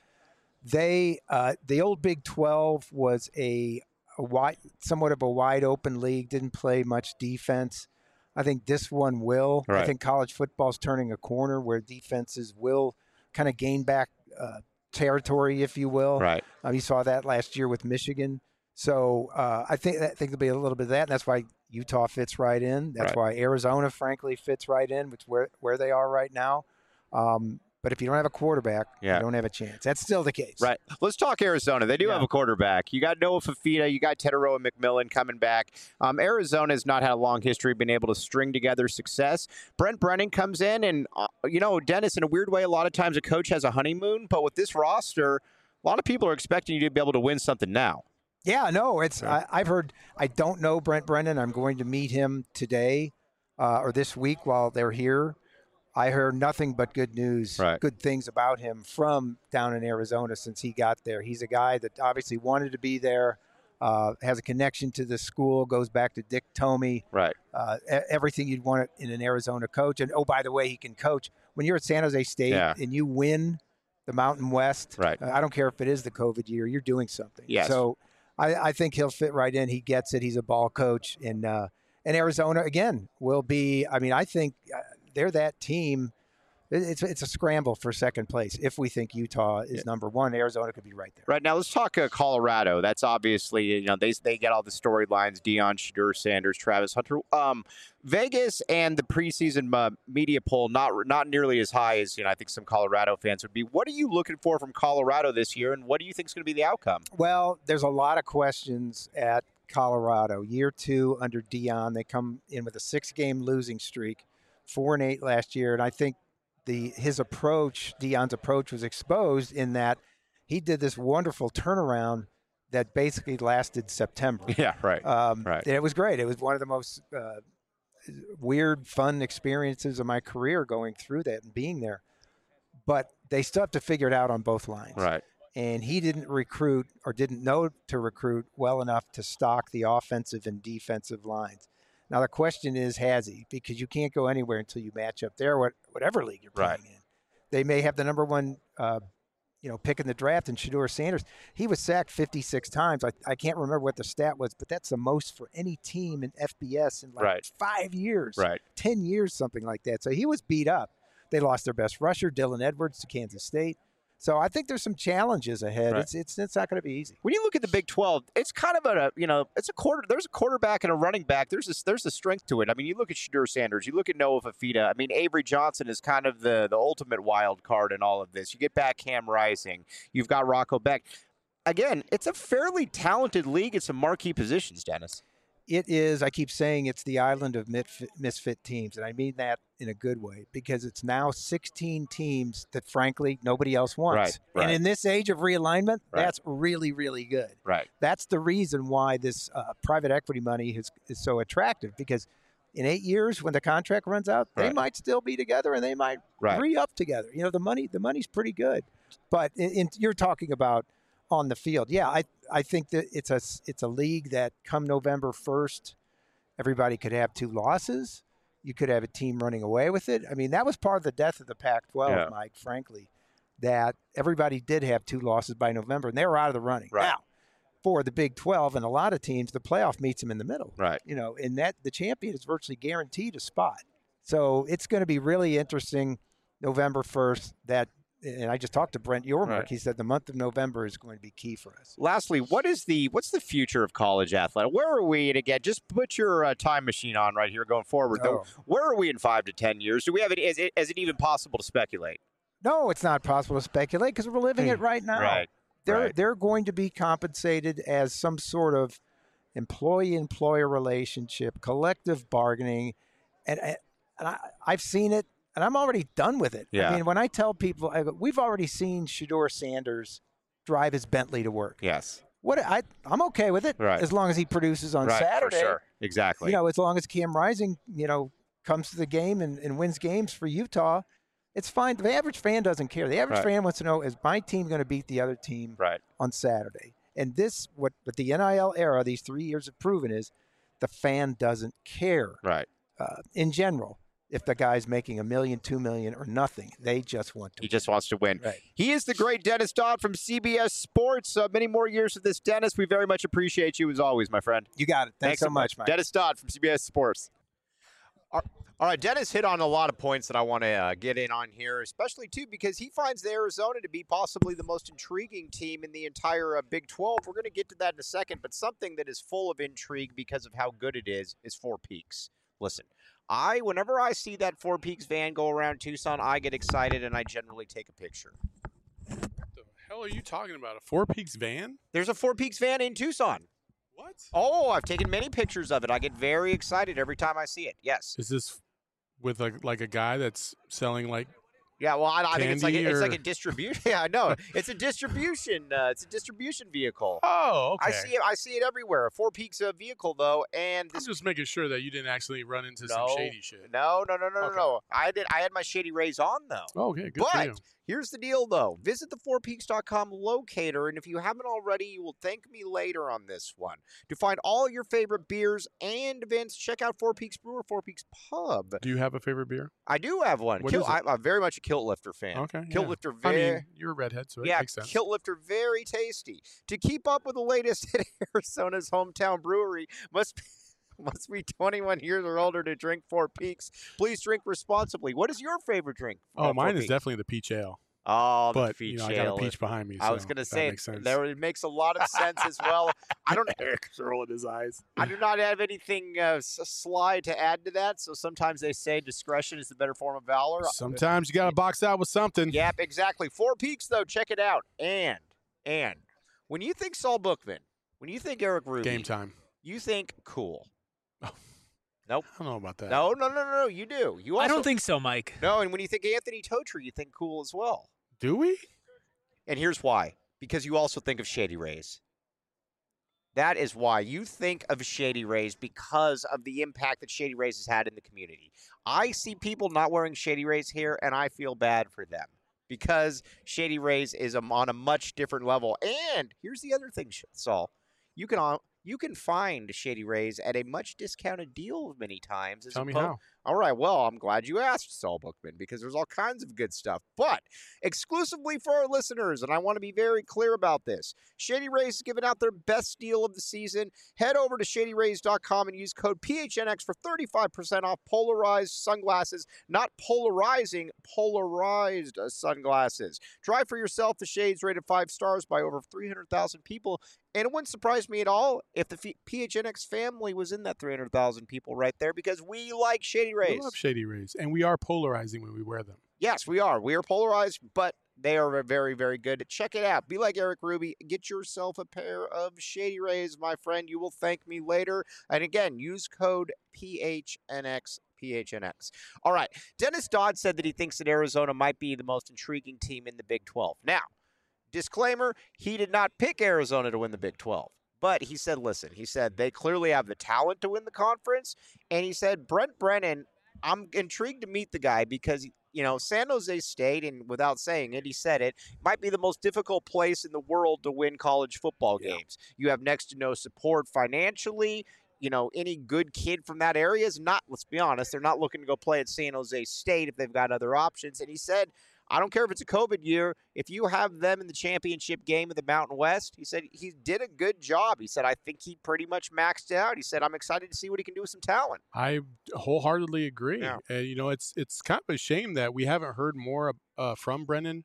They uh, the old Big twelve was a, a wide, somewhat of a wide open league. Didn't play much defense. I think this one will. Right. I think college football's turning a corner where defenses will kind of gain back uh, territory, if you will. Right. Um, you saw that last year with Michigan. So uh, I think I think there'll be a little bit of that, and that's why Utah fits right in. That's Right. why Arizona, frankly, fits right in, which where where they are right now. Um, but if you don't have a quarterback, Yeah. you don't have a chance. That's still the case. Right. Let's talk Arizona. They do Yeah. have a quarterback. You got Noah Fafita. You got Tedero and McMillan coming back. Um, Arizona has not had a long history of being able to string together success. Brent Brennan comes in, and, uh, you know, Dennis, in a weird way, a lot of times a coach has a honeymoon. But with this roster, a lot of people are expecting you to be able to win something now. Yeah, no, it's I, I've heard. I don't know Brent Brennan. I'm going to meet him today uh, or this week while they're here. I heard nothing but good news, Right. good things about him from down in Arizona since he got there. He's a guy that obviously wanted to be there, uh, has a connection to the school, goes back to Dick Tomey, Right. uh, e- everything you'd want in an Arizona coach. And, oh, by the way, he can coach. When you're at San Jose State Yeah. and you win the Mountain West, Right. uh, I don't care if it is the COVID year, you're doing something. Yes. So I, I think he'll fit right in. He gets it. He's a ball coach. And, uh, and Arizona, again, will be, I mean, I think uh, they're that team. It- It's it's a scramble for second place. If we think Utah is Yeah. number one, Arizona could be right there. Right now, let's talk uh, Colorado. That's obviously, you know, they they get all the storylines: Deion, Shadur Sanders, Travis Hunter. Um, Vegas and the preseason uh, media poll not not nearly as high as, you know, I think some Colorado fans would be. What are you looking for from Colorado this year, and what do you think is going to be the outcome? Well, there's a lot of questions at Colorado. Year two under Deion, they come in with a six-game losing streak, four and eight last year, and I think the his approach, Deion's approach, was exposed in that he did this wonderful turnaround that basically lasted September. Yeah, right. Um, Right. and it was great. It was one of the most uh, weird, fun experiences of my career going through that and being there. But they still have to figure it out on both lines. Right. and he didn't recruit or didn't know to recruit well enough to stock the offensive and defensive lines. Now, the question is, has he? Because you can't go anywhere until you match up there, whatever league you're playing Right. in. They may have the number one uh, you know, pick in the draft, and Shedeur Sanders, he was sacked fifty-six times. I, I can't remember what the stat was, but that's the most for any team in F B S in like Right. five years, Right. ten years, something like that. So he was beat up. They lost their best rusher, Dylan Edwards, to Kansas State. So I think there's some challenges ahead. Right. It's it's it's not going to be easy. When you look at the Big twelve, it's kind of a, you know, it's a quarter. There's a quarterback and a running back. There's a, there's a strength to it. I mean, you look at Shedeur Sanders, you look at Noah Fafita. I mean, Avery Johnson is kind of the the ultimate wild card in all of this. You get back Cam Rising. You've got Rocco Beck. Again, it's a fairly talented league at some marquee positions, Dennis. It is, I keep saying it's the island of misfit, misfit teams, and I mean that in a good way, because it's now sixteen teams that, frankly, nobody else wants. Right, right. And in this age of realignment, Right. that's really, really good. Right. That's the reason why this uh, private equity money is, is so attractive, because in eight years, when the contract runs out, they Right. might still be together and they might Right. re-up together. You know, the money, the money's pretty good. But in, in, you're talking about on the field. Yeah, I I think that it's a it's a league that come November first, everybody could have two losses. You could have a team running away with it. I mean, that was part of the death of the Pac twelve, Yeah. Mike, frankly, that everybody did have two losses by November, and they were out of the running. Right. Now, for the Big twelve and a lot of teams, the playoff meets them in the middle. Right. You know, and that the champion is virtually guaranteed a spot. So it's going to be really interesting November first. That, and I just talked to Brent Yormark. Right. He said the month of November is going to be key for us. Lastly, what is the what's the future of college athletics? Where are we? And again, just put your uh, time machine on right here going forward. Though, Oh. where are we in five to ten years? Do we have it? Is it, is it even possible to speculate? No, it's not possible to speculate because we're living it right now. Right. They're right. they're going to be compensated as some sort of employee-employer relationship, collective bargaining, and and I, I've seen it, and I'm already done with it. Yeah. I mean, when I tell people, I go, we've already seen Shedeur Sanders drive his Bentley to work. Yes. What I I'm okay with it Right. as long as he produces on right. Saturday. For sure. Exactly. You know, as long as Cam Rising, you know, comes to the game and, and wins games for Utah, it's fine. The average fan doesn't care. The average Right. fan wants to know, is my team going to beat the other team right. on Saturday? And this, what, what the N I L era, these three years have proven is the fan doesn't care Right. uh, in general if the guy's making a million, two million, or nothing. They just want to He just wants to win. Right. He is the great Dennis Dodd from C B S Sports. Uh, many more years of this, Dennis. We very much appreciate you as always, my friend. You got it. Thanks, so much, Mike. Dennis Dodd from C B S Sports. All right, Dennis hit on a lot of points that I want to uh, get in on here, especially, too, because he finds the Arizona to be possibly the most intriguing team in the entire uh, Big twelve. We're going to get to that in a second, but something that is full of intrigue because of how good it is is Four Peaks. Listen, I, whenever I see that Four Peaks van go around Tucson, I get excited and I generally take a picture. What the hell are you talking about? A Four Peaks van? There's a Four Peaks van in Tucson. What? Oh, I've taken many pictures of it. I get very excited every time I see it. Yes. Is this with a, like a guy that's selling like Yeah, well, I, I think it's like a, Candy it's like or- a distribution. Yeah, I know. It's a distribution. Uh, it's a distribution vehicle. Oh, okay. I see it. I see it everywhere. A Four Peaks uh, vehicle, though, and I'm this. just making sure that you didn't actually run into No, some shady shit. No, no, no, no, Okay. no, no. I did. I had my Shady Rays on though. Oh, okay, good for you. But here's the deal, though. Visit the four peaks dot com locator, and if you haven't already, you will thank me later on this one. To find all your favorite beers and events, check out Four Peaks Brewer, Four Peaks Pub. Do you have a favorite beer? I do have one. What Kilt, is it? I, I'm very much a Kilt Lifter fan. Okay. Kilt yeah. Lifter, I very. mean, you're a redhead, so it Yeah, makes sense. Kilt Lifter, very tasty. To keep up with the latest at Arizona's hometown brewery, must be, must be twenty-one years or older to drink Four Peaks. Please drink responsibly. What is your favorite drink? oh, uh, Four mine is Peaks? definitely the peach ale. Oh, the But peach you know, I ale. got a peach behind me. I was so going to that say makes sense. there it makes a lot of sense as well. I don't. Eric's rolling his eyes. I do not have anything uh, s- sly to add to that. So sometimes they say discretion is the better form of valor. Sometimes you got to box out with something. Yep, exactly. Four Peaks, though. Check it out. And, and, when you think Saul Bookman, when you think Eric Ruby, Game time. you think cool. I don't know about that. No, no, no, no, no. You do. You also, I don't think so, Mike. No, and when you think Anthony Totri, you think cool as well. Do we? And here's why. Because you also think of Shady Rays. That is why you think of Shady Rays, because of the impact that Shady Rays has had in the community. I see people not wearing Shady Rays here, and I feel bad for them because Shady Rays is on a much different level. And here's the other thing, Saul. You can you can find Shady Rays at a much discounted deal many times. Tell me how. All right, well, I'm glad you asked, Saul Bookman, because there's all kinds of good stuff. But exclusively for our listeners, and I want to be very clear about this, Shady Rays is giving out their best deal of the season. Head over to shady rays dot com and use code P H N X for thirty-five percent off polarized sunglasses, not polarizing, polarized sunglasses. Try for yourself the shades rated five stars by over three hundred thousand people. And it wouldn't surprise me at all if the P H N X family was in that three hundred thousand people right there, because we like Shady Rays. We love Shady Rays, and we are polarizing when we wear them. Yes, we are. We are polarized, but they are very, very good. Check it out. Be like Eric Ruby. Get yourself a pair of Shady Rays, my friend. You will thank me later. And again, use code P H N X. P H N X. All right. Dennis Dodd said that he thinks that Arizona might be the most intriguing team in the Big twelve. Now, disclaimer, he did not pick Arizona to win the Big twelve. But he said, listen, he said they clearly have the talent to win the conference. And he said, Brent Brennan, I'm intrigued to meet the guy because, you know, San Jose State, and without saying it, he said it, might be the most difficult place in the world to win college football games. Yeah. You have next to no support financially. You know, any good kid from that area is not, let's be honest, they're not looking to go play at San Jose State if they've got other options. And he said, I don't care if it's a COVID year. If you have them in the championship game of the Mountain West, he said he did a good job. He said, I think he pretty much maxed out. He said, I'm excited to see what he can do with some talent. I wholeheartedly agree. Yeah. Uh, you know, it's it's kind of a shame that we haven't heard more uh, from Brennan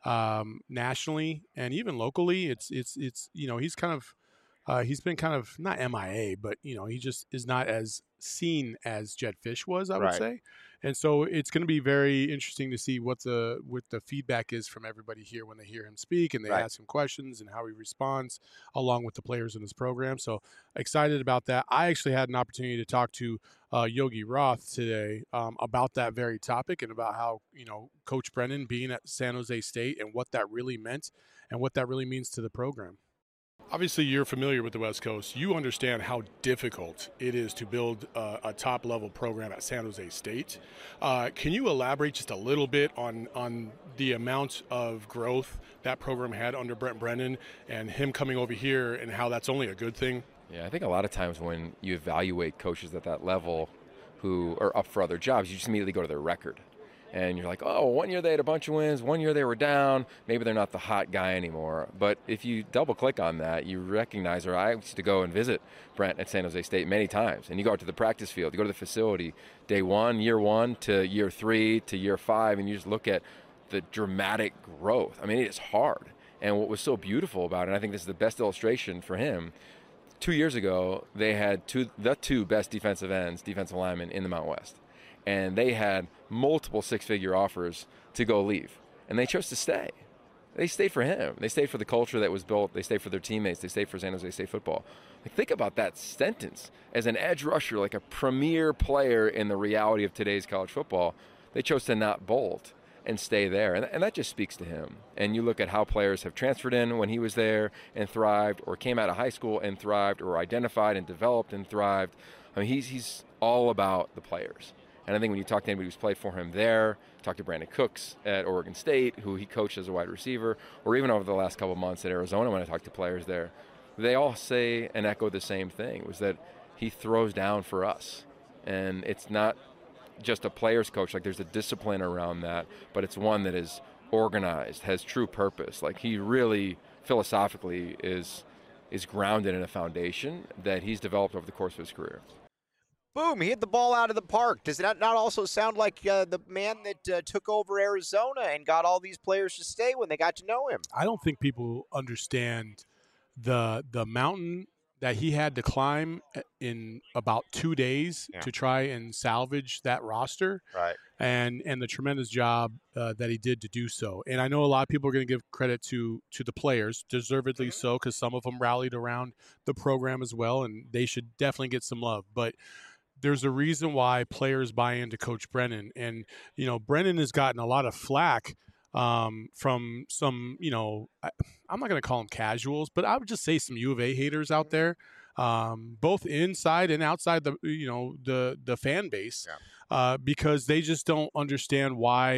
um, nationally and even locally. It's it's it's you know he's kind of uh, he's been kind of not M I A, but you know he just is not as seen as Jedd Fisch was, I would Right. say. And so it's going to be very interesting to see what the what the feedback is from everybody here when they hear him speak and they Right. ask him questions and how he responds along with the players in his program. So excited about that. I actually had an opportunity to talk to uh, Yogi Roth today um, about that very topic and about how, you know, Coach Brennan being at San Jose State and what that really meant and what that really means to the program. Obviously, you're familiar with the West Coast. You understand how difficult it is to build uh, a top-level program at San Jose State. Uh, can you elaborate just a little bit on on the amount of growth that program had under Brent Brennan and him coming over here and how that's only a good thing? Yeah, I think a lot of times when you evaluate coaches at that level who are up for other jobs, you just immediately go to their record. And you're like, oh, one year they had a bunch of wins, one year they were down, maybe they're not the hot guy anymore. But if you double click on that, you recognize, or I used to go and visit Brent at San Jose State many times, and you go out to the practice field, you go to the facility, day one, year one to year three to year five, and you just look at the dramatic growth. I mean, it is hard. And what was so beautiful about it, and I think this is the best illustration for him, two years ago, they had two, the two best defensive ends, defensive linemen in the Mountain West. And they had multiple six-figure offers to go leave. And they chose to stay. They stayed for him. They stayed for the culture that was built. They stayed for their teammates. They stayed for San Jose State football. Like, think about that sentence. As an edge rusher, like a premier player in the reality of today's college football, they chose to not bolt and stay there. And, and that just speaks to him. And you look at how players have transferred in when he was there and thrived, or came out of high school and thrived, or identified and developed and thrived. I mean, he's he's all about the players. And I think when you talk to anybody who's played for him there, talk to Brandon Cooks at Oregon State, who he coached as a wide receiver, or even over the last couple of months at Arizona when I talked to players there, they all say and echo the same thing, was that he throws down for us. And it's not just a player's coach, like there's a discipline around that, but it's one that is organized, has true purpose. Like he really, philosophically, is is grounded in a foundation that he's developed over the course of his career. Boom, he hit the ball out of the park. Does that not also sound like uh, the man that uh, took over Arizona and got all these players to stay when they got to know him? I don't think people understand the the mountain that he had to climb in about two days Yeah. to try and salvage that roster, Right. and and the tremendous job uh, that he did to do so. And I know a lot of people are going to give credit to to the players, deservedly Mhm. so, because some of them rallied around the program as well, and they should definitely get some love. But there's a reason why players buy into Coach Brennan. And, you know, Brennan has gotten a lot of flack um, from some, you know, I, I'm not going to call them casuals, but I would just say some U of A haters out there, um, both inside and outside the, you know, the, the fan base, Yeah. uh, because they just don't understand why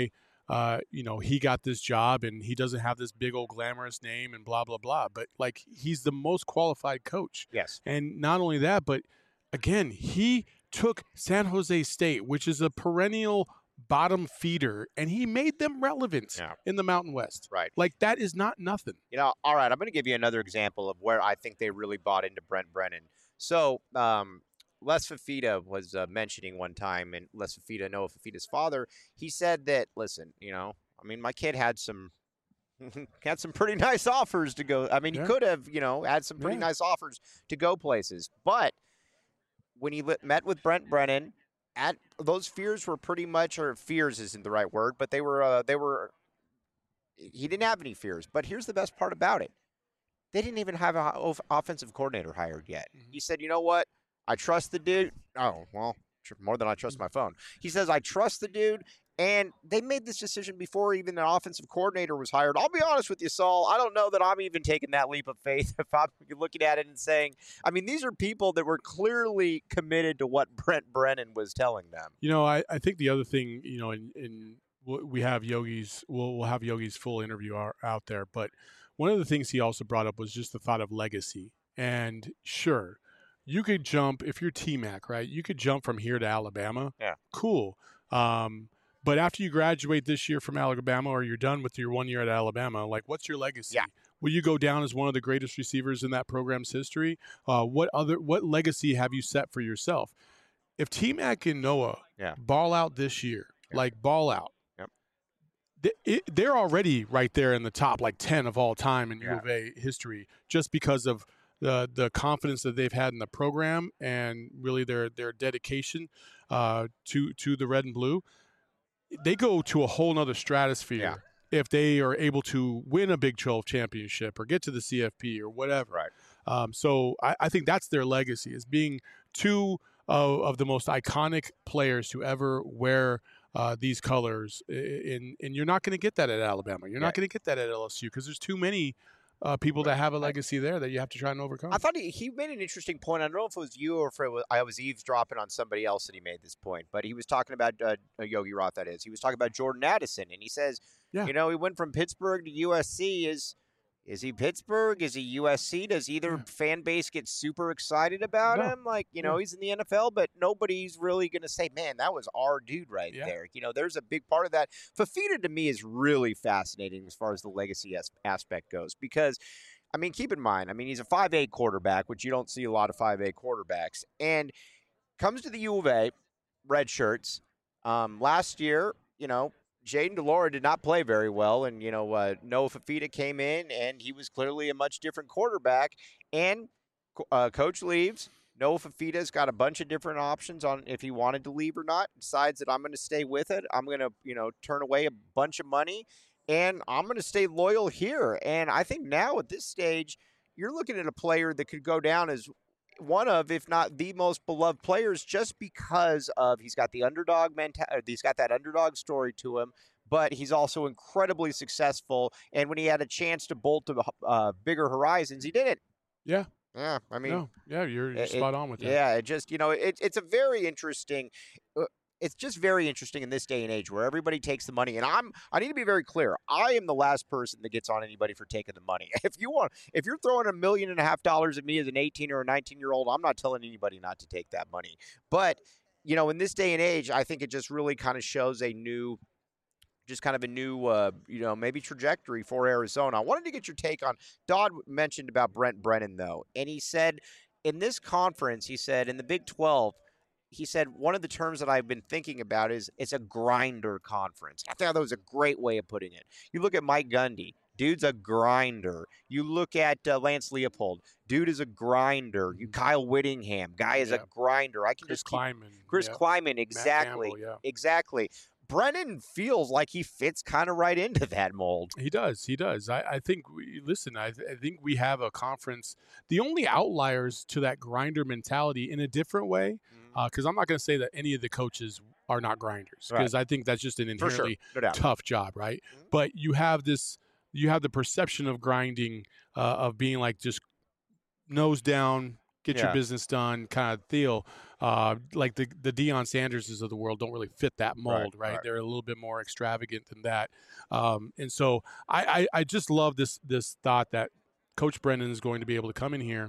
uh, you know, he got this job and he doesn't have this big old glamorous name and blah, blah, blah. But, like, he's the most qualified coach. Yes. And not only that, but, again, he took San Jose State, which is a perennial bottom feeder, and he made them relevant Yeah. in the Mountain West. Right. Like, that is not nothing. You know, all right, I'm going to give you another example of where I think they really bought into Brent Brennan. So, um, Les Fafita was uh, mentioning one time, and Les Fafita, Noah Fafita's father, he said that, listen, you know, I mean, my kid had some had some pretty nice offers to go. I mean, Yeah. he could have, you know, had some pretty Yeah. nice offers to go places. But when he li- met with Brent Brennan, at those fears were pretty much, or fears isn't the right word, but they were, uh, they were, he didn't have any fears. But here's the best part about it. They didn't even have an offensive coordinator hired yet. Mhm. He said, you know what? I trust the dude. Oh, well, tr- more than I trust my phone. He says, I trust the dude. And they made this decision before even an offensive coordinator was hired. I'll be honest with you, Saul. I don't know that I'm even taking that leap of faith if I'm looking at it and saying, I mean, these are people that were clearly committed to what Brent Brennan was telling them. You know, I, I think the other thing, you know, in, in we have Yogi's, we'll, we'll have Yogi's full interview out, out there. But one of the things he also brought up was just the thought of legacy. And sure, you could jump, if you're T-Mac, right? You could jump from here to Alabama. Yeah. Cool. Um, but after you graduate this year from Alabama, or you're done with your one year at Alabama, like, what's your legacy? Yeah. Will you go down as one of the greatest receivers in that program's history? Uh, what other what legacy have you set for yourself? If T-Mac and Noah Yeah. ball out this year, Yeah. like ball out, Yep. th- it, they're already right there in the top, like ten of all time in Yeah. U of A history, just because of the the confidence that they've had in the program and really their their dedication uh, to to the red and blue. They go to a whole nother stratosphere Yeah. if they are able to win a Big twelve championship or get to the C F P or whatever. Right. Um, so I, I think that's their legacy, is being two of, of the most iconic players to ever wear uh, these colors. And, and you're not going to get that at Alabama. You're Yeah. not going to get that at L S U because there's too many uh, people that have a legacy there that you have to try and overcome. I thought he, he made an interesting point. I don't know if it was you or if it was, I was eavesdropping on somebody else that he made this point, but he was talking about uh, Yogi Roth, that is. He was talking about Jordan Addison, and he says, Yeah. you know, he went from Pittsburgh to U S C. Is is he Pittsburgh? Is he U S C? Does either Yeah. fan base get super excited about No. him? Like, you know, Yeah. he's in the N F L, but nobody's really going to say, man, that was our dude right Yeah. there. You know, there's a big part of that. Fafita, to me, is really fascinating as far as the legacy as- aspect goes, because – I mean, keep in mind, I mean, he's a five eight quarterback, which you don't see a lot of five eight quarterbacks, and comes to the U of A, red shirts. Um, last year, you know, Jaden DeLora did not play very well, and, you know, uh, Noah Fafita came in, and he was clearly a much different quarterback, and uh, coach leaves. Noah Fafita's got a bunch of different options on if he wanted to leave or not, decides that I'm going to stay with it. I'm going to, you know, turn away a bunch of money, and I'm going to stay loyal here. And I think now at this stage, you're looking at a player that could go down as one of, if not the most beloved players, just because of he's got the underdog mentality. He's got that underdog story to him, but he's also incredibly successful. And when he had a chance to bolt to uh, bigger horizons, he did it. Yeah. Yeah. I mean, no. Yeah, you're, you're it- spot on with that. yeah, it just, you know, it, it's a very interesting. Uh, It's just very interesting in this day and age where everybody takes the money. And I'm, I need to be very clear. I am the last person that gets on anybody for taking the money. If you want, if you're throwing a million and a half dollars at me as an eighteen or a nineteen year old, I'm not telling anybody not to take that money. But, you know, in this day and age, I think it just really kind of shows a new, just kind of a new, uh, you know, maybe trajectory for Arizona. I wanted to get your take on, Dodd mentioned about Brent Brennan, though. And he said in this conference, he said in the Big twelve, he said one of the terms that I've been thinking about is it's a grinder conference. I thought that was a great way of putting it. You look at Mike Gundy, dude's a grinder. You look at uh, Lance Leopold, dude is a grinder. You Kyle Whittingham, guy is Yeah. a grinder. I can Chris just keep, Kleiman. Chris yeah. Kleiman, Matt exactly, Campbell, yeah. exactly. Brennan feels like he fits kind of right into that mold. He does. He does. I, I think, we, listen, I, th- I think we have a conference. The only outliers to that grinder mentality in a different way, because uh, I'm not going to say that any of the coaches are not grinders, because I think that's just an For sure, inherently no doubt. tough job, right? Mhm. But you have this, you have the perception of grinding, uh, of being like just nose down, get Yeah. your business done kind of deal. uh, like the the Deion Sanderses of the world don't really fit that mold, right? right. They're a little bit more extravagant than that, um, and so I, I I just love this this thought that Coach Brennan is going to be able to come in here,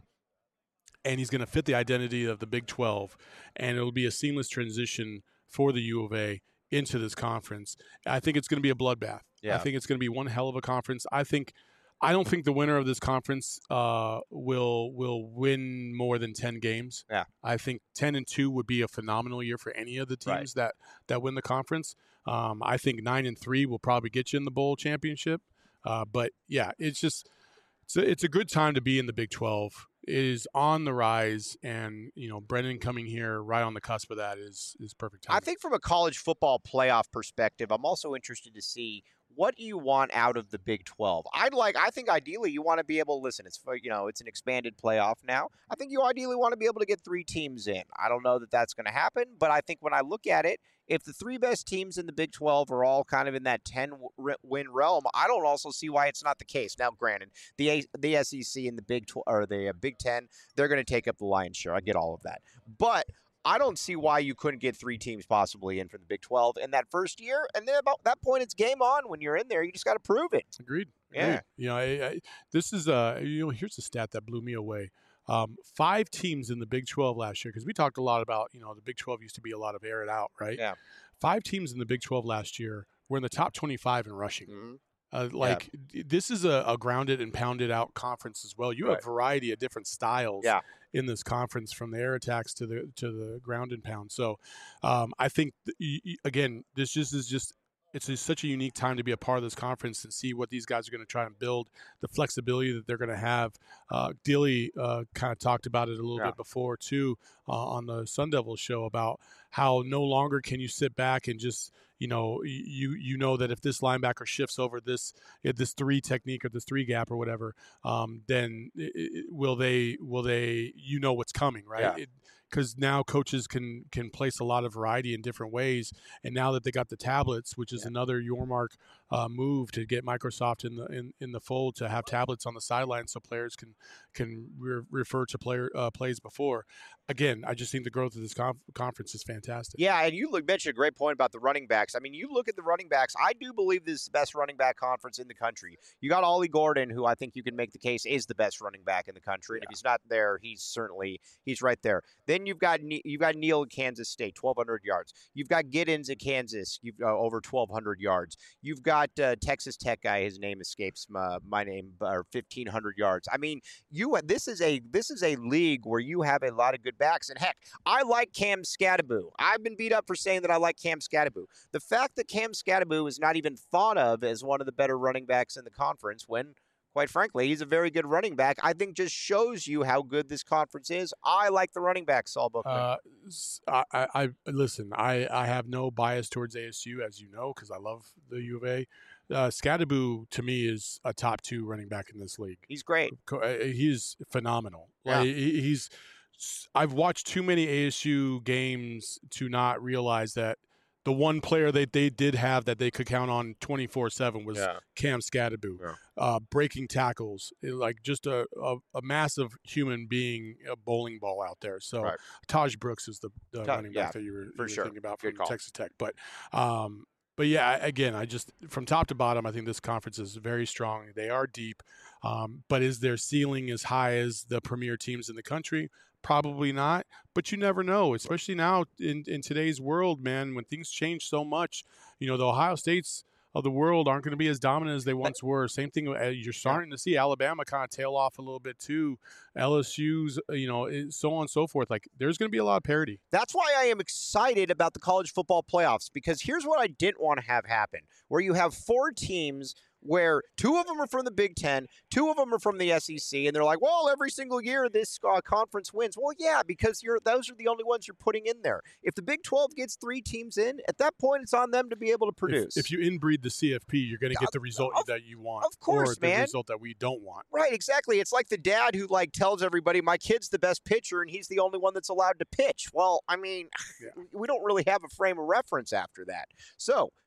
and he's going to fit the identity of the Big twelve, and it'll be a seamless transition for the U of A into this conference. I think it's going to be a bloodbath. Yeah. I think it's going to be one hell of a conference. I think I don't think the winner of this conference uh, will will win more than ten games. Yeah. I think ten and two would be a phenomenal year for any of the teams Right. that that win the conference. Um, I think nine and three will probably get you in the bowl championship. Uh, but yeah, it's just it's a, it's a good time to be in the Big twelve. It is on the rise, and you know Brennan coming here right on the cusp of that is is perfect time. I think from a college football playoff perspective, I'm also interested to see what you want out of the Big twelve. I'd like, I think ideally you want to be able to listen. It's for, you know, it's an expanded playoff now. I think you ideally want to be able to get three teams in. I don't know that that's going to happen, but I think when I look at it, if the three best teams in the Big twelve are all kind of in that ten-win realm, I don't also see why it's not the case. Now, granted, the A- the S E C and the Big twelve or the uh, Big ten, they're going to take up the lion's share. I get all of that, but I don't see why you couldn't get three teams possibly in for the Big twelve in that first year, and then about that point, it's game on. When you're in there, you just got to prove it. Agreed. Yeah. Agreed. You know, I, I, this is uh, you know, here's a stat that blew me away. Um, five teams in the Big twelve last year, because we talked a lot about, you know, the Big twelve used to be a lot of air it out, right? Yeah. Five teams in the Big twelve last year were in the top twenty-five in rushing. Mm-hmm. Uh, like yeah. This is a, a grounded and pounded out conference as well. You Right. have variety of different styles Yeah. in this conference, from the air attacks to the to the ground and pound. So um, I think th- again, this just is just it's just such a unique time to be a part of this conference and see what these guys are going to try and build, the flexibility that they're going to have. Uh, Dilly uh, kind of talked about it a little Yeah. bit before too uh, on the Sun Devils show about how no longer can you sit back and just you know you you know that if this linebacker shifts over this this three technique or this three gap or whatever, um, then it, it, will they will they you know what's coming, right? Yeah. It, because now coaches can can place a lot of variety in different ways, and now that they got the tablets, which is Yeah. another Yormark uh, move to get Microsoft in the in, in the fold, to have tablets on the sideline so players can can re- refer to player uh, plays before. Again, I just think the growth of this conf- conference is fantastic. Yeah, and you look, mentioned a great point about the running backs. I mean, you look at the running backs. I do believe this is the best running back conference in the country. You got Ollie Gordon, who I think you can make the case is the best running back in the country. And if he's not there, he's certainly he's right there. Then you've got you've got Neal at Kansas State, twelve hundred yards. You've got Giddens at Kansas, you've uh, over twelve hundred yards. You've got uh, Texas Tech guy, his name escapes my, my name, or fifteen hundred yards. I mean, you this is a this is a league where you have a lot of good backs. And heck, I like Cam Scattaboo. I've been beat up for saying that I like Cam Scattaboo. The fact that Cam Scattaboo is not even thought of as one of the better running backs in the conference, when, quite frankly, he's a very good running back, I think just shows you how good this conference is. I like the running back, Saul Bookman. Uh, I, I, I listen. I, I have no bias towards A S U, as you know, because I love the U of A. Uh, Scattaboo to me is a top two running back in this league. He's great. He's phenomenal. Yeah. Like, he's. I've watched too many A S U games to not realize that the one player that they did have that they could count on twenty-four seven was Yeah. Cam Scattaboo, Yeah. uh, breaking tackles, it- like just a, a, a massive human being, a bowling ball out there. So Right. Taj Brooks is the, the Ta- running yeah, back that you were, for you were sure. thinking about Good from call. Texas Tech. But um, but yeah, again, I just from top to bottom, I think this conference is very strong. They are deep, um, but is their ceiling as high as the premier teams in the country? Probably not, but you never know, especially now in, in today's world, man, when things change so much. You know, the Ohio States of the world aren't going to be as dominant as they once were. Same thing, uh, you're starting to see Alabama kind of tail off a little bit too. L S U's, you know, so on and so forth. Like, there's going to be a lot of parity. That's why I am excited about the college football playoffs, because here's what I didn't want to have happen, where you have four teams where two of them are from the Big Ten, two of them are from the S E C, and they're like, well, every single year this uh, conference wins. Well, yeah, because you're those are the only ones you're putting in there. If the Big twelve gets three teams in, at that point, it's on them to be able to produce. If, if you inbreed the C F P, you're going to get the result of, that you want. Of course, or the man. result that we don't want. Right, exactly. It's like the dad who like tells everybody, my kid's the best pitcher, and he's the only one that's allowed to pitch. Well, I mean, Yeah. we don't really have a frame of reference after that. So,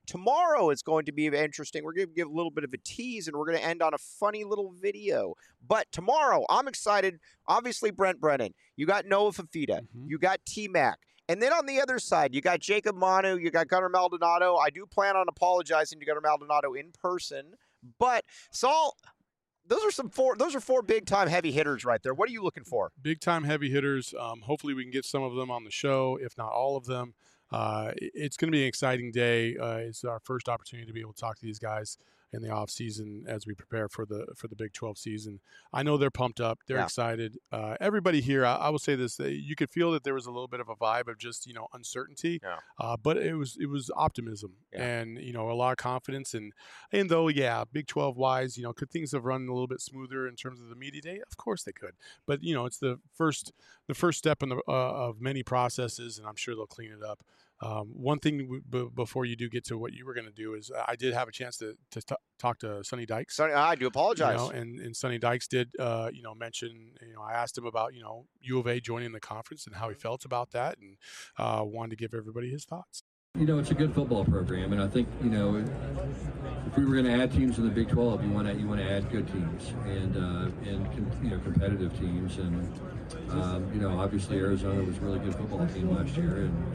Tomorrow is going to be interesting. We're going to give a little bit of a tease, and we're going to end on a funny little video. But tomorrow, I'm excited. Obviously, Brent Brennan. You got Noah Fafita. Mm-hmm. You got T-Mac. And then on the other side, you got Jacob Manu. You got Gunnar Maldonado. I do plan on apologizing to Gunnar Maldonado in person. But, Saul, those are some four. Those are four big-time heavy hitters right there. What are you looking for? Big-time heavy hitters. Um, hopefully we can get some of them on the show, if not all of them. Uh, it's going to be an exciting day. Uh, it's our first opportunity to be able to talk to these guys in the off season as we prepare for the for the Big twelve season. I know they're pumped up. They're yeah. excited. Uh, everybody here, I, I will say this: you could feel that there was a little bit of a vibe of just you know uncertainty, yeah. uh, but it was it was optimism yeah. and you know a lot of confidence. And and though yeah, Big twelve wise, you know, could things have run a little bit smoother in terms of the media day? Of course they could. But you know, it's the first the first step in the uh, of many processes, and I'm sure they'll clean it up. Um, one thing w- b- before you do get to what you were going to do is I did have a chance to, to t- talk to Sonny Dykes. Sonny, I do apologize. You know, and, and Sonny Dykes did, uh, you know, mention, you know, I asked him about, you know, U of A joining the conference and how he felt about that, and uh, wanted to give everybody his thoughts. You know, it's a good football program, and I think, you know, if we were going to add teams in the Big twelve, you want to you want to add good teams and uh, and com- you know competitive teams, and um, you know, obviously Arizona was a really good football team last year, and,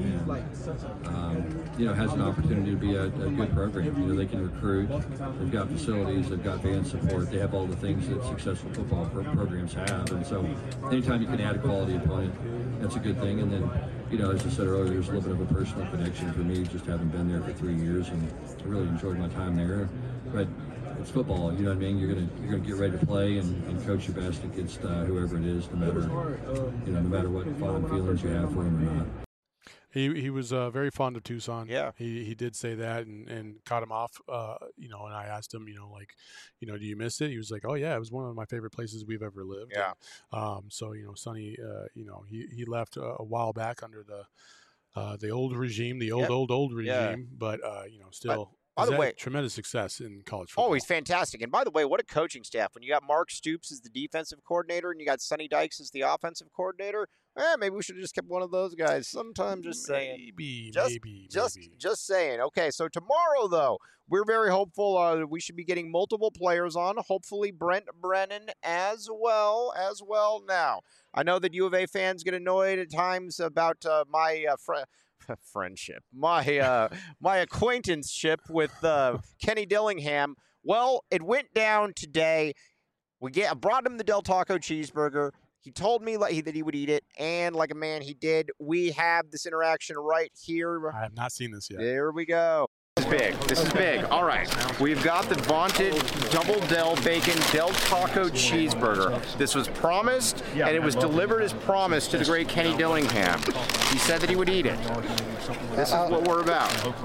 and um, you know has an opportunity to be a, a good program. You know, they can recruit, they've got facilities, they've got fan support, they have all the things that successful football pro- programs have, and so anytime you can add a quality opponent, that's a good thing. And then, you know, as I said earlier, there's a little bit of a personal connection for me, just having been there for three years, and I really enjoyed my time there. But it's football, you know what I mean? You're gonna you're gonna get ready to play and, and coach your best against uh, whoever it is, no matter you know no matter what fond feelings you have for him or not. He he was uh, very fond of Tucson. Yeah, he he did say that, and, and caught him off. Uh, you know, and I asked him, you know, like, you know, do you miss it? He was like, oh yeah, it was one of my favorite places we've ever lived. Yeah. And, um. So you know, Sonny, uh, you know, he he left a, a while back under the uh the old regime, the old yep. old old regime, yeah. but uh, you know, still. By the way, tremendous success in college football. Oh, he's fantastic. And by the way, what a coaching staff. When you got Mark Stoops as the defensive coordinator and you got Sonny Dykes as the offensive coordinator, eh, maybe we should have just kept one of those guys. Sometimes just saying. Maybe, just, maybe, just, maybe. Just saying. Okay, so tomorrow, though, we're very hopeful uh, we should be getting multiple players on. Hopefully Brent Brennan as well, as well. Now, I know that U of A fans get annoyed at times about uh, my uh, friend. friendship, my uh, my acquaintanceship with uh, Kenny Dillingham. Well, it went down today. We get I brought him the Del Taco cheeseburger. He told me like, that he would eat it, and like a man, he did. We have this interaction right here. I have not seen this yet. There we go. This is big. This is big. All right. We've got the vaunted double Del Bacon Del Taco cheeseburger. This was promised, and it was delivered as promised to the great Kenny Dillingham. He said that he would eat it. This is what we're about.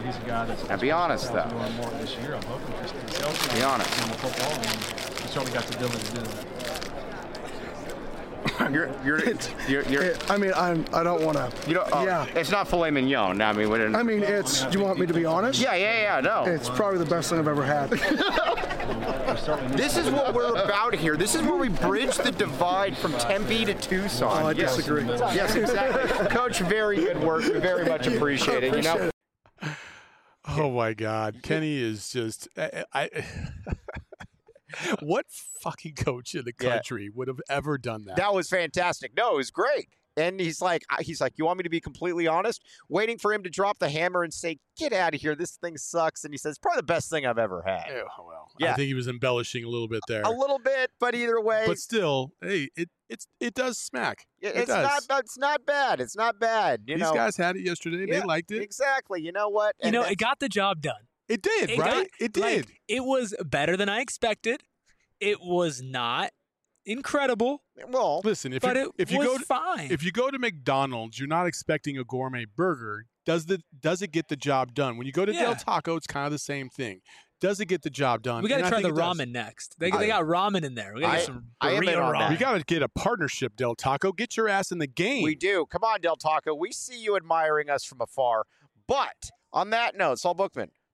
Now, be honest, though. Be honest. He certainly got the ability to do that. You're, you're, you're, you're, it, I mean, I'm, I don't want to. You don't. Oh, yeah. It's not filet mignon. I mean, we didn't. I mean, it's. Do you want me to be honest? Yeah, yeah, yeah. No. It's probably the best thing I've ever had. This is what we're about here. This is where we bridge the divide from Tempe to Tucson. Oh, I yes. disagree. Yes, exactly. Coach, very good work. We very much appreciate it. You know. Oh my God, Kenny is just. I. I What fucking coach in the country yeah. would have ever done that? That was fantastic. No, it was great. And he's like, he's like, you want me to be completely honest? Waiting for him to drop the hammer and say, get out of here. This thing sucks. And he says, probably the best thing I've ever had. Oh, well, yeah. I think he was embellishing a little bit there. A little bit, but either way. But still, hey, it it's it does smack. It, it it's does. not. It's not bad. It's not bad. You These know? guys had it yesterday. Yeah, they liked it. Exactly. You know what? You And know, it got the job done. It did, it right? Got, it did. Like, it was better than I expected. It was not incredible. Well, listen, if but you it if you was go to, fine. if you go to McDonald's, you're not expecting a gourmet burger. Does the does it get the job done? When you go to yeah. Del Taco, it's kind of the same thing. Does it get the job done? We got to try the ramen does. next. They, I, they got ramen in there. We got to get some burrito ramen. We got to get a partnership, Del Taco. Get your ass in the game. We do. Come on, Del Taco. We see you admiring us from afar. But on that note, Saul Bookman,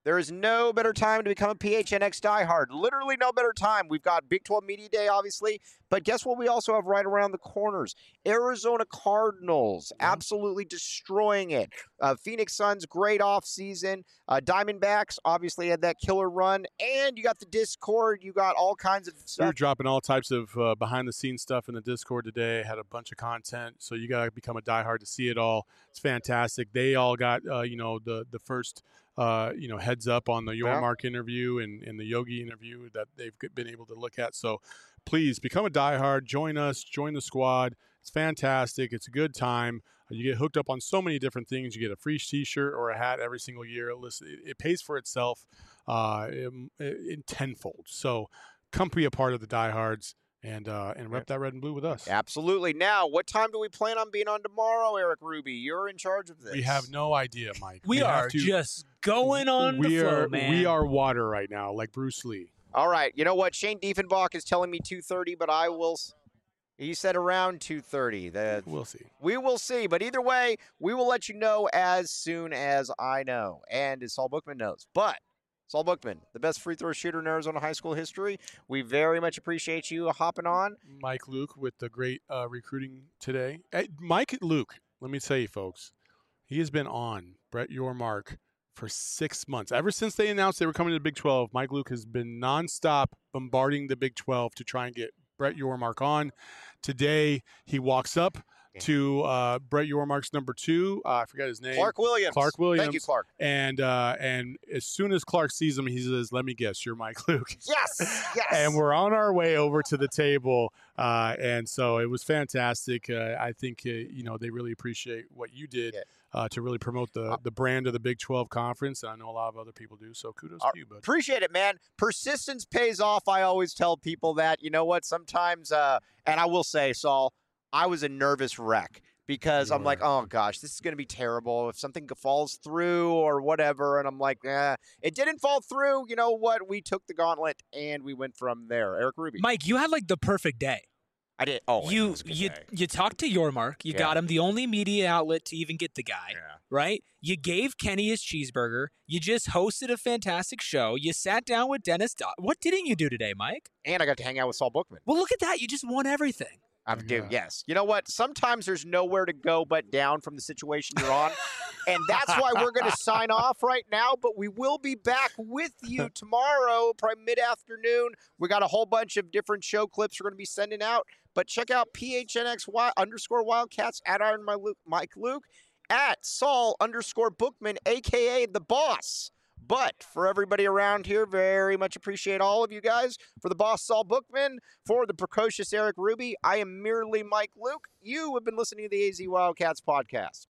There is no better time to become a P H N X diehard. Literally no better time. We've got Big twelve Media Day, obviously, but guess what we also have right around the corners? Arizona Cardinals, absolutely destroying it. Uh, Phoenix Suns, great offseason. Uh, Diamondbacks, obviously, had that killer run. And you got the Discord. You got all kinds of stuff. We're dropping all types of uh, behind-the-scenes stuff in the Discord today. Had a bunch of content, so you got to become a diehard to see it all. It's fantastic. They all got, uh, you know, the the first – Uh, you know, heads up on the Yormark interview and, and the Yogi interview that they've been able to look at. So please become a diehard, join us, join the squad. It's fantastic. It's a good time. You get hooked up on so many different things. You get a free t-shirt or a hat every single year. Listen, it, it pays for itself uh, in, in tenfold. So come be a part of the diehards. And uh, and rep that red and blue with us. Absolutely. Now, what time do we plan on being on tomorrow, Eric Ruby? You're in charge of this. We have no idea, Mike. We, we are to, just going on we the flow, are, man. We are water right now, like Bruce Lee. All right. You know what? Shane Diefenbach is telling me two thirty, but I will – he said around two thirty. That We'll see. We will see. But either way, we will let you know as soon as I know and as Saul Bookman knows. But – Saul Bookman, the best free throw shooter in Arizona high school history. We very much appreciate you hopping on. Mike Luke with the great uh, recruiting today. Hey, Mike Luke, let me tell you, folks, he has been on Brett Yormark for six months. Ever since they announced they were coming to the Big twelve, Mike Luke has been nonstop bombarding the Big twelve to try and get Brett Yormark on. Today, he walks up to uh, Brett Yormark's number two. Uh, I forgot his name. Clark Williams. Clark Williams. Thank you, Clark. And uh, and as soon as Clark sees him, he says, "Let me guess, you're Mike Luke." Yes, yes. And we're on our way over to the table. Uh, and so it was fantastic. Uh, I think, uh, you know, they really appreciate what you did uh, to really promote the, the brand of the Big twelve Conference. And I know a lot of other people do. So kudos uh, to you, bud. Appreciate it, man. Persistence pays off. I always tell people that. You know what? Sometimes, uh, and I will say, Saul, I was a nervous wreck. Because I'm like, oh, gosh, this is going to be terrible if something falls through or whatever. And I'm like, eh, it didn't fall through. You know what? We took the gauntlet and we went from there. Eric Ruby. Mike, you had like the perfect day. I did. Oh, you you day. you talked to Yormark. You yeah. got him the only media outlet to even get the guy, yeah. right? You gave Kenny his cheeseburger. You just hosted a fantastic show. You sat down with Dennis. Do- what didn't you do today, Mike? And I got to hang out with Saul Bookman. Well, look at that. You just won everything. I'm yeah. yes. You know what? Sometimes there's nowhere to go but down from the situation you're on. And that's why we're going to sign off right now. But we will be back with you tomorrow, probably mid-afternoon. We got a whole bunch of different show clips we're going to be sending out. But check out P H N X Y underscore Wildcats at Iron Mike Luke, at Saul underscore Bookman, a k a. The Boss. But for everybody around here, very much appreciate all of you guys. For the boss, Saul Bookman, for the precocious Eric Ruby, I am merely Mike Luke. You have been listening to the A Z Wildcats podcast.